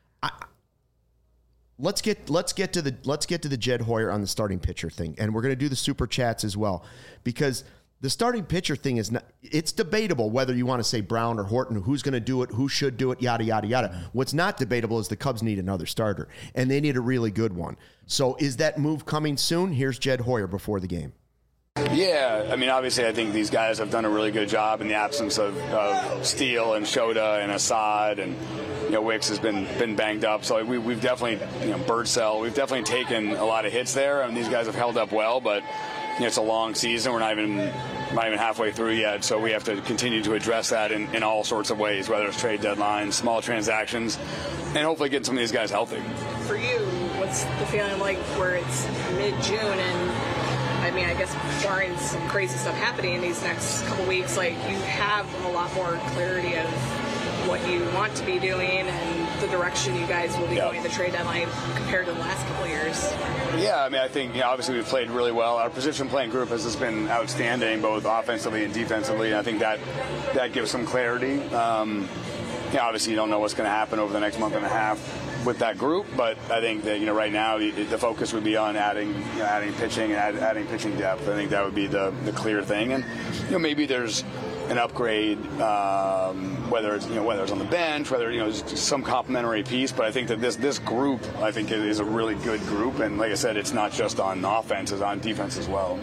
Let's get to the Jed Hoyer on the starting pitcher thing, and we're going to do the super chats as well, because the starting pitcher thing it's debatable whether you want to say Brown or Horton, who's going to do it, who should do it, yada, yada, yada. What's not debatable is the Cubs need another starter, and they need a really good one. So is that move coming soon? Here's Jed Hoyer before the game. Yeah, I mean, obviously, I think these guys have done a really good job in the absence of Steele and Shota and Assad, and Wicks has been banged up. So we've definitely, Birdsell, we've definitely taken a lot of hits there, and these guys have held up well. But it's a long season. We're not even halfway through yet, so we have to continue to address that in all sorts of ways, whether it's trade deadlines, small transactions, and hopefully get some of these guys healthy. For you, what's the feeling like where it's mid-June and, I mean, I guess barring some crazy stuff happening in these next couple weeks, like you have a lot more clarity of what you want to be doing and the direction you guys will be going at the trade deadline compared to the last couple of years? Yeah, I mean, I think obviously we've played really well. Our position playing group has just been outstanding, both offensively and defensively. And I think that gives some clarity. Obviously you don't know what's going to happen over the next month and a half. with that group. But I think that right now the focus would be on adding pitching and adding pitching depth. I think that would be the clear thing. And maybe there's an upgrade, whether it's on the bench, whether it's some complementary piece. But I think that this group, I think, is a really good group. And like I said, it's not just on offense; it's on defense as well.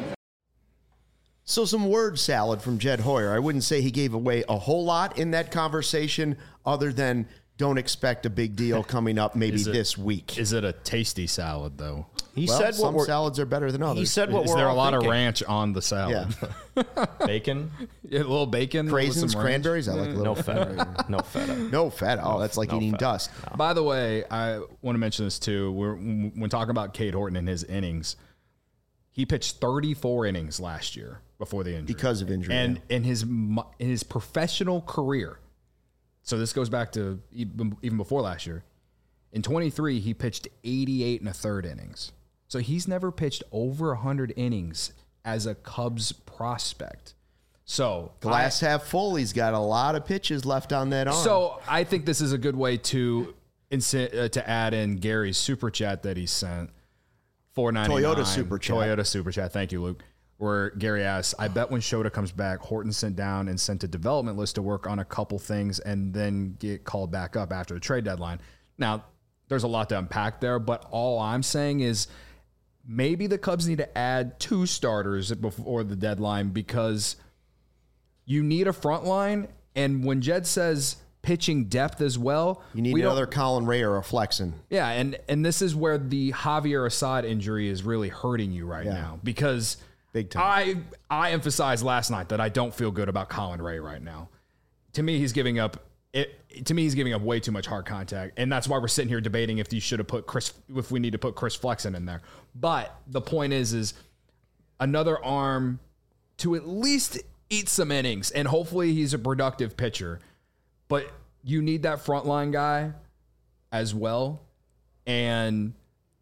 So some word salad from Jed Hoyer. I wouldn't say he gave away a whole lot in that conversation, other than don't expect a big deal coming up maybe this week. Is it a tasty salad though? He said some salads are better than others. He said what Is we're there a all lot thinking. of ranch on the salad? Yeah. Bacon, Yeah, a little bacon, with Craisins, some ranch. cranberries. I like a little no feta, no feta. No feta. Oh, that's like no eating feta. dust. By the way, I want to mention this too. When talking about Cade Horton and his innings, he pitched 34 innings last year before the injury Because of injury. and in his professional career. So this goes back to even before last year. In 23, he pitched 88 1/3 innings. So he's never pitched over 100 innings as a Cubs prospect. So Glass half full. He's got a lot of pitches left on that arm. So I think this is a good way to add in Gary's super chat that he sent. $4.99 Toyota super chat. Toyota super chat. Thank you, Luke. Where Gary asks, I bet when Shota comes back, Horton sent down and sent a development list to work on a couple things and then get called back up after the trade deadline. Now, there's a lot to unpack there, but all I'm saying is maybe the Cubs need to add 2 starters before the deadline because you need a front line. And when Jed says pitching depth as well, you need another Colin Ray or a Flexen. Yeah, and this is where the Javier Assad injury is really hurting you right now because big time. I emphasized last night that I don't feel good about Colin Ray right now. To me, he's giving up way too much hard contact, and that's why we're sitting here debating if we need to put Chris Flexen in there. But the point is another arm to at least eat some innings, and hopefully he's a productive pitcher. But you need that frontline guy as well. And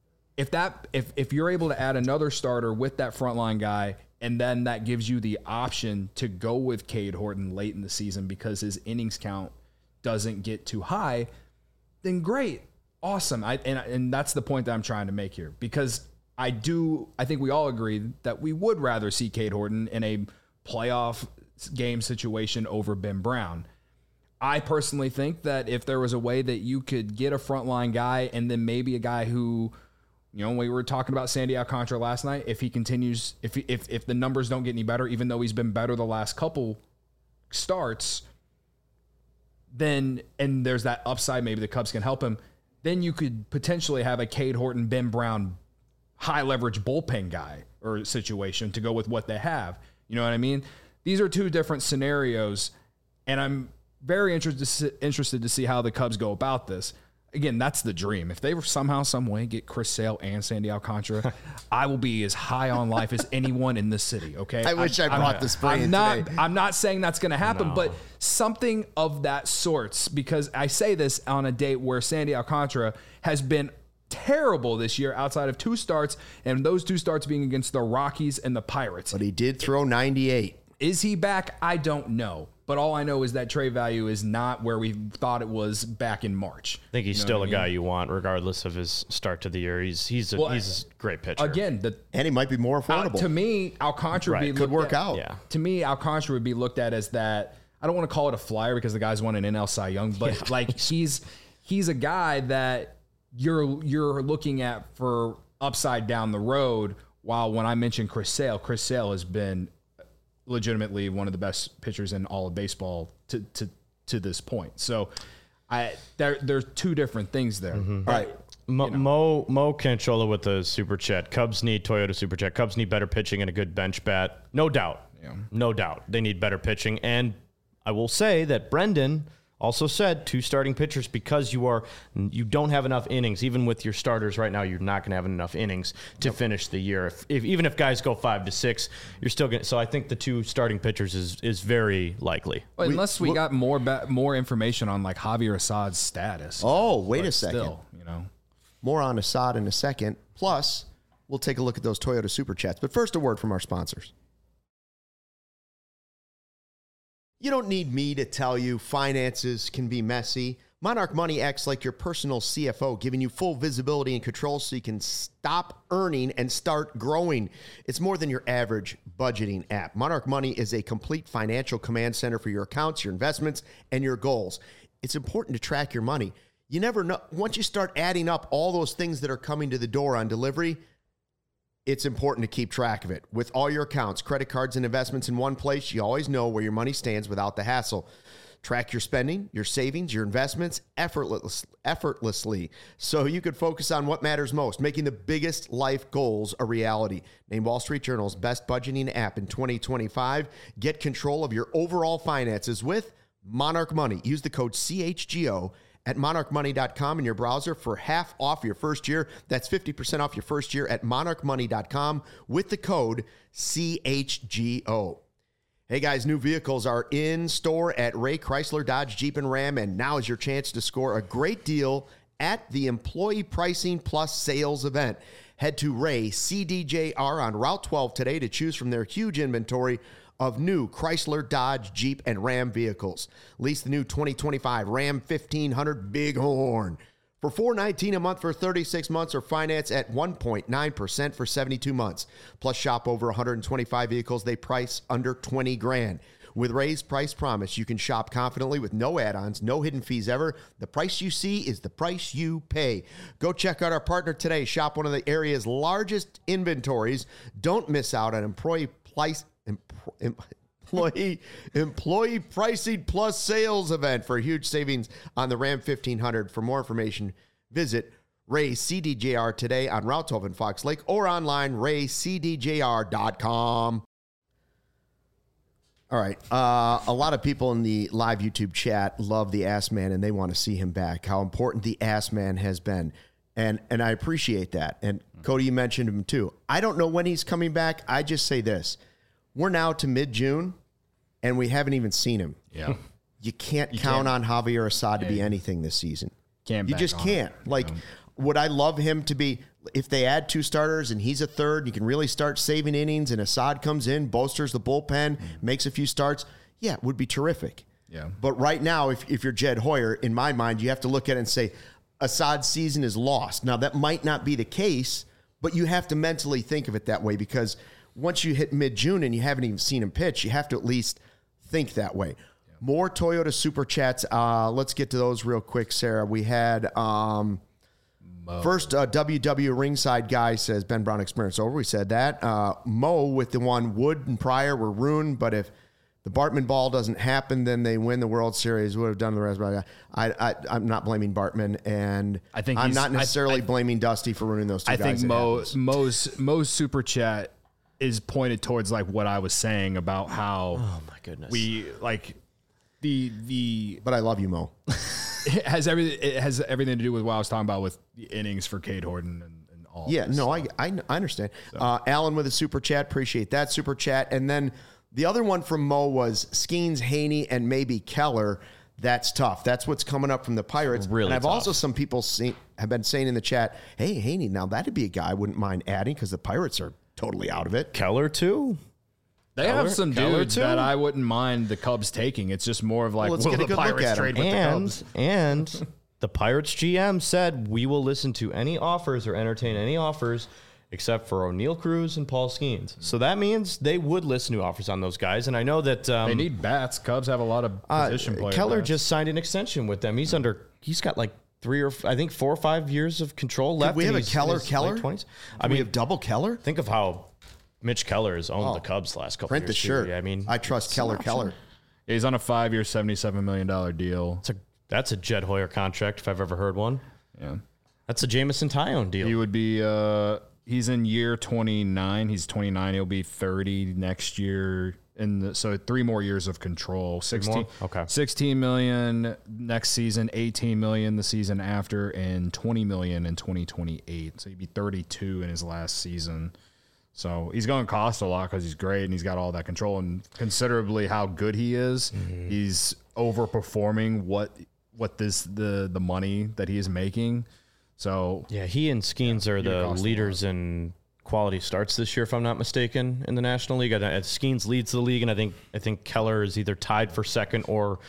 if you're able to add another starter with that frontline guy, and then that gives you the option to go with Cade Horton late in the season because his innings count doesn't get too high, then great. Awesome. And that's the point that I'm trying to make here because I think we all agree that we would rather see Cade Horton in a playoff game situation over Ben Brown. I personally think that if there was a way that you could get a frontline guy and then maybe a guy who, we were talking about Sandy Alcantara last night, if he continues, if the numbers don't get any better, even though he's been better the last couple starts, then, and there's that upside, maybe the Cubs can help him, then you could potentially have a Cade Horton, Ben Brown, high leverage bullpen guy or situation to go with what they have. You know what I mean? These are 2 different scenarios, and I'm very interested to see how the Cubs go about this. Again, that's the dream. If they somehow, some way get Chris Sale and Sandy Alcantara, I will be as high on life as anyone in this city. Okay. I wish I brought the spray in today. I'm not saying that's going to happen, but something of that sorts, because I say this on a date where Sandy Alcantara has been terrible this year outside of 2 starts, and those 2 starts being against the Rockies and the Pirates. But he did throw 98. Is he back? I don't know. But all I know is that trade value is not where we thought it was back in March. I think he's still a guy you want, regardless of his start to the year. He's a great pitcher. Again, and he might be more affordable. To me, Alcantara could work out. Yeah. To me, Alcantara would be looked at as that. I don't want to call it a flyer because the guy's won an NL Cy Young, but he's a guy that you're looking at for upside down the road. While when I mentioned Chris Sale has been legitimately one of the best pitchers in all of baseball to this point. So there's 2 different things there. Mm-hmm. All right. Mo Canchola with the super chat. Cubs need Toyota super chat. Cubs need better pitching and a good bench bat. No doubt. Yeah. No doubt. They need better pitching. And I will say that Brendan also said 2 starting pitchers because you don't have enough innings. Even with your starters right now, you're not going to have enough innings to finish the year. Even if guys go 5 to 6, you're still going to. So I think the 2 starting pitchers is very likely. Well, unless we got more information on like Javier Assad's status. Oh, wait a second. Still, More on Assad in a second. Plus, we'll take a look at those Toyota Super Chats. But first, a word from our sponsors. You don't need me to tell you finances can be messy, Monarch Money acts like your personal CFO, giving you full visibility and control so you can stop earning and start growing. It's more than your average budgeting app. Monarch Money is a complete financial command center for your accounts, your investments, and your goals. It's important to track your money. You never know. Once you start adding up all those things that are coming to the door on delivery, it's important to keep track of it. With all your accounts, credit cards, and investments in one place, you always know where your money stands without the hassle. Track your spending, your savings, your investments effortlessly so you could focus on what matters most, making the biggest life goals a reality. Named Wall Street Journal's best budgeting app in 2025. Get control of your overall finances with Monarch Money. Use the code CHGO at monarchmoney.com in your browser for half off your first year. That's 50% off your first year at monarchmoney.com with the code CHGO. Hey guys, new vehicles are in store at Ray Chrysler, Dodge, Jeep, and Ram, and now is your chance to score a great deal at the Employee Pricing Plus Sales event. Head to Ray CDJR on Route 12 today to choose from their huge inventory of new Chrysler, Dodge, Jeep, and Ram vehicles. Lease the new 2025 Ram 1500 Bighorn for $419 a month for 36 months or finance at 1.9% for 72 months. Plus shop over 125 vehicles. They price under $20,000. With Ray's Price Promise, you can shop confidently with no add-ons, no hidden fees ever. The price you see is the price you pay. Go check out our partner today. Shop one of the area's largest inventories. Don't miss out on Employee Pricing Plus Sales event for huge savings on the Ram 1500. For more information, visit Ray CDJR today on Route 12 in Fox Lake or online, raycdjr.com. All right. A lot of people in the live YouTube chat love the Ass Man and they want to see him back, how important the Ass Man has been. And I appreciate that. And Cody, you mentioned him too. I don't know when he's coming back. I just say this. We're now to mid-June, and we haven't even seen him. Yeah. You can't count on Javier Assad to be anything this season. You just can't. Would I love him to be, if they add 2 starters and he's a third, you can really start saving innings and Assad comes in, bolsters the bullpen, makes a few starts. Yeah, it would be terrific. Yeah. But right now, if you're Jed Hoyer, in my mind, you have to look at it and say, Assad's season is lost. Now, that might not be the case, but you have to mentally think of it that way because once you hit mid-June and you haven't even seen him pitch, you have to at least think that way. Yeah. More Toyota Super Chats. Let's get to those real quick, Sarah. We had first WW Ringside guy says Ben Brown experience over. We said that. Mo with the one Wood and Pryor were ruined, but if the Bartman ball doesn't happen, then they win the World Series. Would have done the rest. But I'm not blaming Bartman, and I'm not necessarily blaming Dusty for ruining those two guys. I think Mo's Super Chat is pointed towards like what I was saying about how my goodness, we like the But I love you, Mo. It has everything to do with what I was talking about with the innings for Cade Horton and all. Yeah, no, I understand. So. Alan with a super chat, appreciate that super chat, and then the other one from Mo was Skeens, Haney, and maybe Keller. That's tough. That's what's coming up from the Pirates. Really, and I've tough. also some people have been saying in the chat, hey, Haney, now that'd be a guy I wouldn't mind adding because the Pirates are totally out of it. Keller too. They have some dudes that I wouldn't mind the Cubs taking. It's just more of like, let's get a good look at trade them. with the Cubs? And the Pirates GM said we will listen to any offers or entertain any offers except for O'Neal Cruz and Paul Skeens. So that means they would listen to offers on those guys. And I know that they need bats. Cubs have a lot of position players. Keller just signed an extension with them. He's got like 4 or 5 years of control left. We have a Late Keller. 20s. We have double Keller. Think of how Mitch Keller has owned the Cubs the last couple Print years. the shirt. I mean, I trust Keller. Yeah, he's on a 5-year, $77 million deal. That's a Jed Hoyer contract if I've ever heard one. Yeah, that's a Jamison Tyone deal. He would be. He's in year 29. He's 29. He'll be 30 next year. So 3 more years of control. 16 million next season, 18 million the season after, and 20 million in 2028. So he'd be 32 in his last season. So he's going to cost a lot because he's great and he's got all that control, and considerably how good he is. Mm-hmm. He's overperforming what the money that he is making. So yeah, he and Skeens are the leaders in quality starts this year, if I'm not mistaken, in the National League. Skeens leads the league, and I think Keller is either tied for second or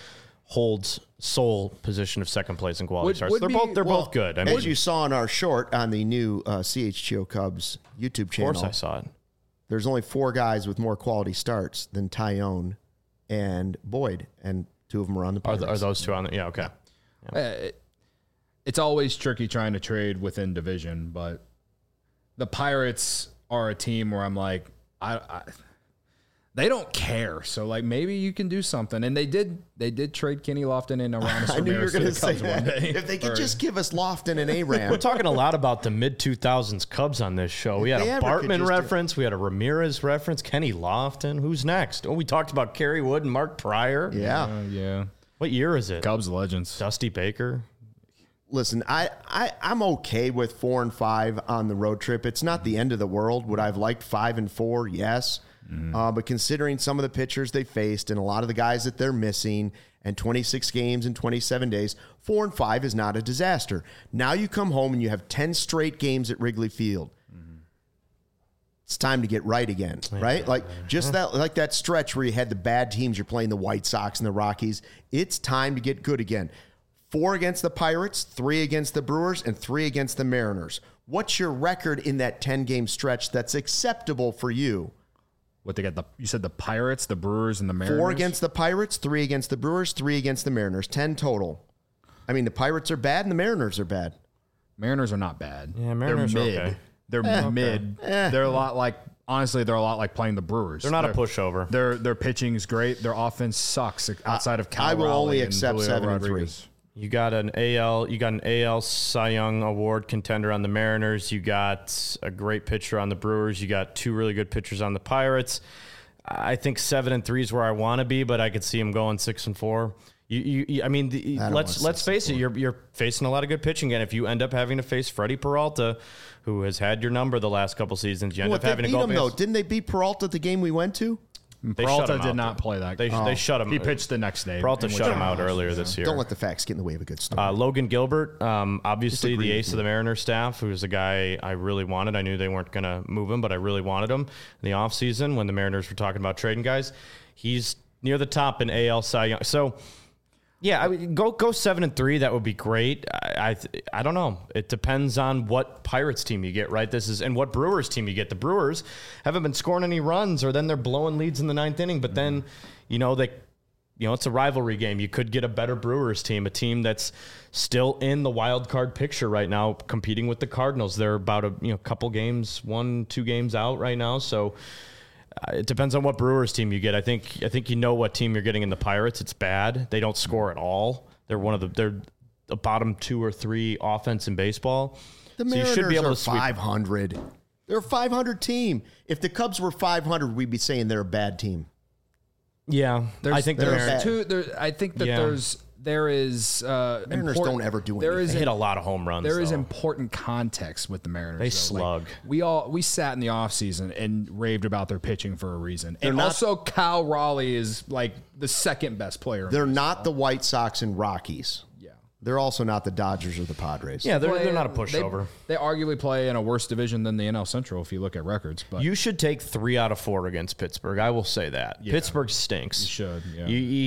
holds sole position of second place in quality starts. would They're both good. I mean, As you saw in our short on the new CHGO Cubs YouTube channel, of course I saw it. there's only 4 guys with more quality starts than Tyone and Boyd, and 2 of them are on the Pirates. Are those two on the? Yeah, okay. It's always tricky trying to trade within division, but the Pirates are a team where I'm like, they don't care. So like maybe you can do something. And they did trade Kenny Lofton and Aramis I knew you were Ramirez to going the to say Cubs one that. day. If they could just give us Lofton and Aram. We're talking a lot about the mid-2000s Cubs on this show. We had They a ever could Bartman just reference. We had a Ramirez reference. Kenny Lofton. Who's next? Oh, we talked about Kerry Wood and Mark Pryor. Yeah. Yeah. What year is it? Cubs legends. Dusty Baker. Listen, I'm okay with 4 and 5 on the road trip. It's not the end of the world. Would I have liked 5 and 4? Yes. But considering some of the pitchers they faced and a lot of the guys that they're missing and 26 games in 27 days, 4 and 5 is not a disaster. Now you come home and you have 10 straight games at Wrigley Field. It's time to get right again, right? Like just that stretch where you had the bad teams, you're playing the White Sox and the Rockies. It's time to get good again. 4 against the Pirates, 3 against the Brewers, and 3 against the Mariners. What's your record in that 10-game stretch that's acceptable for you? What they got? You said the Pirates, the Brewers, and the Mariners? 4 against the Pirates, 3 against the Brewers, 3 against the Mariners. 10 total. I mean, the Pirates are bad and the Mariners are bad. Mariners are not bad. Yeah, Mariners They're are mid. okay. They're mid. They're a lot like, honestly, they're a lot like playing the Brewers. They're not a pushover. Their pitching is great. Their offense sucks outside of Cal I will Raleigh only and accept Julio 7 and 3. Rodriguez. You got an AL Cy Young Award contender on the Mariners. You got a great pitcher on the Brewers. You got 2 really good pitchers on the Pirates. I think 7 and 3 is where I want to be, but I could see him going 6 and 4. Let's face it. You're facing a lot of good pitching, and if you end up having to face Freddie Peralta, who has had your number the last couple seasons, you end up having to go. Didn't they beat Peralta at the game we went to? They Peralta shut him did out, not though. play that. They shut him. He pitched the next day. Peralta in which shut him I out lost. earlier this year. Don't let the facts get in the way of a good story. Logan Gilbert, obviously Disagree the with ace of the Mariners staff, who was a guy I really wanted. I knew they weren't going to move him, but I really wanted him in the offseason when the Mariners were talking about trading guys. He's near the top in AL Cy Young. So, yeah, I mean, go 7 and 3. That would be great. I don't know. It depends on what Pirates team you get, right? And what Brewers team you get. The Brewers haven't been scoring any runs, or then they're blowing leads in the 9th inning. But then, it's a rivalry game. You could get a better Brewers team, a team that's still in the wild card picture right now, competing with the Cardinals. They're about a couple games, 1-2 games out right now. So. It depends on what Brewers team you get. I think you know what team you're getting in the Pirates. It's bad. They don't score at all. They're the bottom 2 or 3 offense in baseball. The Mariners are 500. They're a 500 team. If the Cubs were 500, we'd be saying they're a bad team. Yeah, I think there's I think that there is Mariners don't ever do anything. They hit a lot of home runs. There is important context with the Mariners. They slug. We sat in the offseason and raved about their pitching for a reason. And also Cal Raleigh is like the second best player. They're not the White Sox and Rockies. Yeah. They're also not the Dodgers or the Padres. Yeah, they're not a pushover. They arguably play in a worse division than the NL Central if you look at records. But you should take 3 out of 4 against Pittsburgh. I will say that. Yeah. Pittsburgh stinks. You should. Yeah.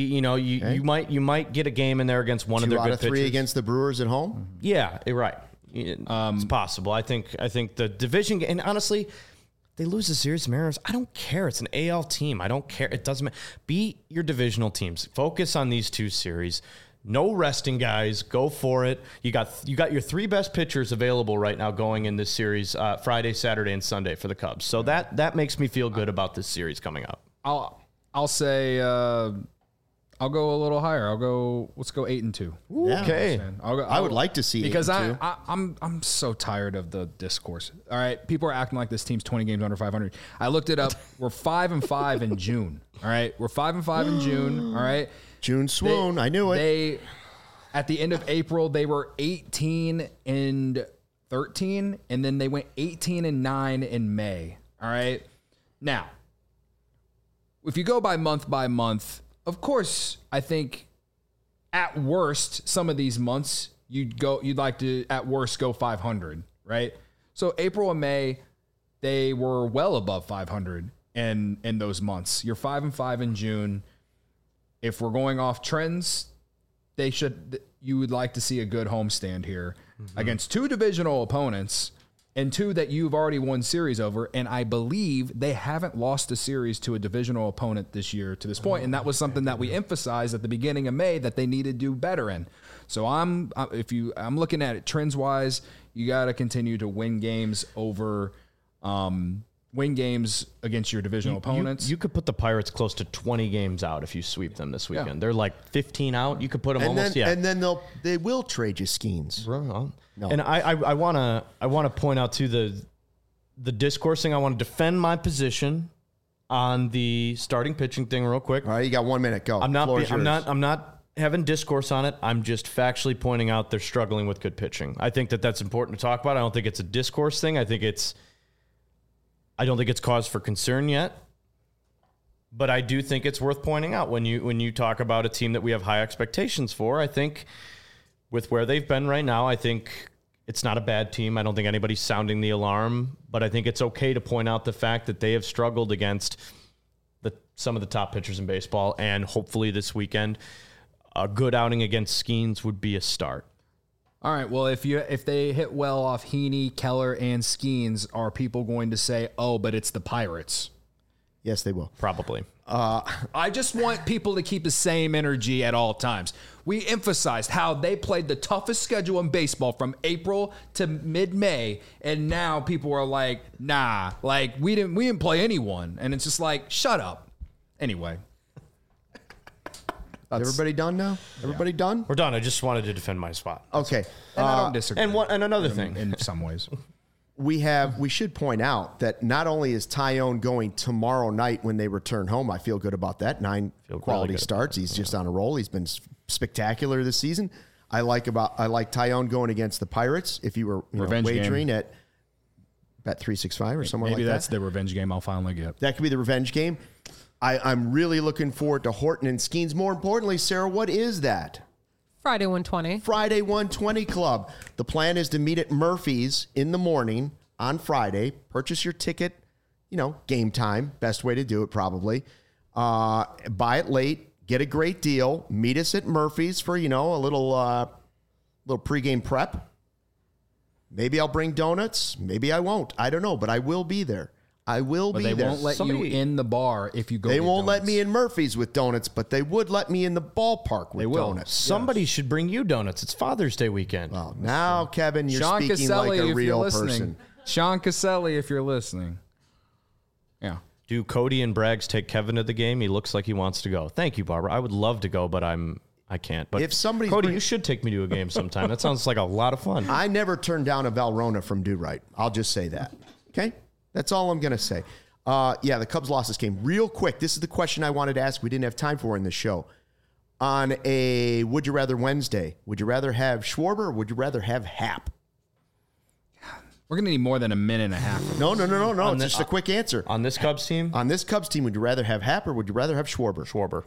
You might get a game in there against one of their good pitchers. 2 out of 3 against the Brewers at home. Mm-hmm. Yeah, right. It's possible. I think the division, and honestly, they lose the series to Mariners. I don't care. It's an AL team. I don't care. It doesn't matter. Beat your divisional teams. Focus on these 2 series. No resting guys. Go for it. You got your 3 best pitchers available right now going in this series Friday, Saturday, and Sunday for the Cubs. So that makes me feel good about this series coming up. I'll say I'll go a little higher. Let's go 8 and 2. Yeah. Okay. I would like to see 8 because and 2. I'm so tired of the discourse. All right, people are acting like this team's 20 games under 500. I looked it up. We're 5 and 5 in June. All right, we're 5 and 5 in June. All right. June swoon. I knew it. At the end of April, they were 18 and 13, and then they went 18 and 9 in May. All right. Now, if you go by month, of course, I think at worst, some of these months you'd like to at worst go 500, right? So April and May, they were well above 500 in those months. You're 5 and 5 in June. If we're going off trends, you would like to see a good homestand here against two divisional opponents and two that you've already won series over. And I believe they haven't lost a series to a divisional opponent this year to this point. And that was something that we emphasized at the beginning of May that they need to do better in. So I'm looking at it trends wise. You got to continue to win games over, win games against your divisional opponents. You could put the Pirates close to 20 games out if you sweep them this weekend. Yeah. They're like 15 out. You could put them and then they will trade you Skeens. No. And I want to point out too the discourse thing. I want to defend my position on the starting pitching thing real quick. All right, you got 1 minute. Go. I'm not having discourse on it. I'm just factually pointing out they're struggling with good pitching. I think that's important to talk about. I don't think it's a discourse thing. I don't think it's cause for concern yet. But I do think it's worth pointing out when you talk about a team that we have high expectations for. I think with where they've been right now, I think it's not a bad team. I don't think anybody's sounding the alarm, but I think it's okay to point out the fact that they have struggled against some of the top pitchers in baseball, and hopefully this weekend, a good outing against Skeens would be a start. All right, well, if they hit well off Heaney, Keller, and Skeens, are people going to say, oh, but it's the Pirates? Yes, they will. Probably. I just want people to keep the same energy at all times. We emphasized how they played the toughest schedule in baseball from April to mid-May, and now people are like, nah, like we didn't play anyone, and it's just like, shut up. Anyway. Everybody done now? Everybody done? We're done. I just wanted to defend my spot. Okay. And I don't disagree. And another thing. In some ways. We should point out that not only is Tyone going tomorrow night when they return home, I feel good about that. 9 quality starts. He's just on a roll. He's been spectacular this season. I like Tyone going against the Pirates. If you were wagering at Bet365 or somewhere like that. Maybe that's the revenge game I'll finally get. That could be the revenge game. I'm really looking forward to Horton and Skeens. More importantly, Sarah, what is that? Friday 120. Friday 120 Club. The plan is to meet at Murphy's in the morning on Friday. Purchase your ticket, game time. Best way to do it probably. Buy it late. Get a great deal. Meet us at Murphy's for, a little pregame prep. Maybe I'll bring donuts. Maybe I won't. I don't know, but I will be there. I will be there. They won't let you in the bar if you go. They won't let me in Murphy's with donuts, but they would let me in the ballpark with donuts. Somebody should bring you donuts. It's Father's Day weekend. Well, now, Kevin, you're Sean speaking Caselli, like a real person. person. Sean Caselli, if you're listening. Yeah. Do Cody and Braggs take Kevin to the game? He looks like he wants to go. Thank you, Barbara. I would love to go, but I can't. But if somebody, Cody, you should take me to a game sometime. That sounds like a lot of fun. I never turned down a Valrhona from Do Right. I'll just say that. Okay? That's all I'm going to say. The Cubs lost this game. Real quick, this is the question I wanted to ask we didn't have time for in this show. On a Would You Rather Wednesday, would you rather have Schwarber or would you rather have Happ? We're going to need more than a minute and a half. No. It's just a quick answer. On this Cubs team? On this Cubs team, would you rather have Happ or would you rather have Schwarber? Schwarber.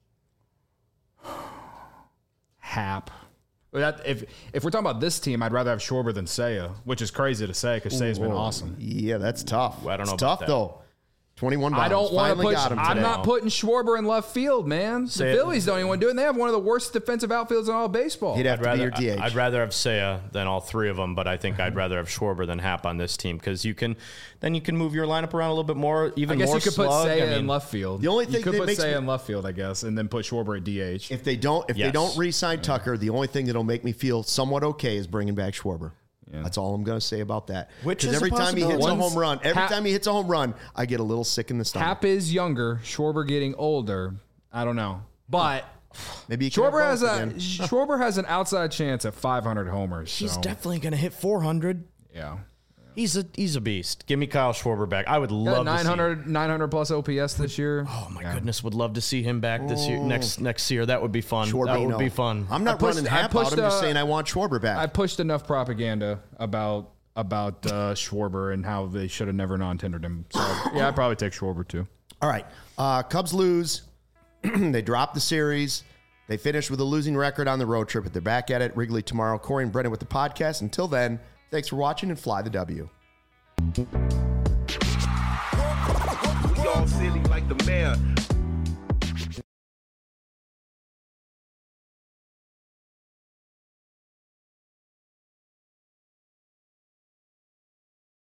Happ. If we're talking about this team, I'd rather have Schwarber than Seiya, which is crazy to say because Seiya's been awesome. Yeah, that's tough. I don't know it's about tough, though. 21 bombs. I don't want to put. I'm not today. putting Schwarber in left field, man. The Phillies don't even want to do it. And they have one of the worst defensive outfields in all of baseball. He'd have to be your DH. I'd rather have Seiya than all three of them, but I think I'd rather have Schwarber than Happ on this team because you can move your lineup around a little bit more. Even more I guess you could put slug. Seiya in left field. The only thing you could that put makes Seiya in left field, I guess, and then put Schwarber at DH. If they don't re-sign Tucker, the only thing that'll make me feel somewhat okay is bringing back Schwarber. Yeah. That's all I'm going to say about that. Because every time he hits a home run, I get a little sick in the stomach. Happ is younger, Schwarber getting older. I don't know, but maybe Schwarber has an outside chance at 500 homers. He's definitely going to hit 400. Yeah. He's a beast. Give me Kyle Schwarber back. I would love 900 plus OPS this year. Oh my goodness, would love to see him back this year. Next year, that would be fun. That would be fun. I'm not running Happ out. I'm just saying I want Schwarber back. I pushed enough propaganda about Schwarber and how they should have never non-tendered him. So yeah, I'd probably take Schwarber too. All right, Cubs lose. They drop the series. They finish with a losing record on the road trip, but they're back at it Wrigley tomorrow. Corey and Brennan with the podcast. Until then. Thanks for watching and fly the W. We all silly like the mayor.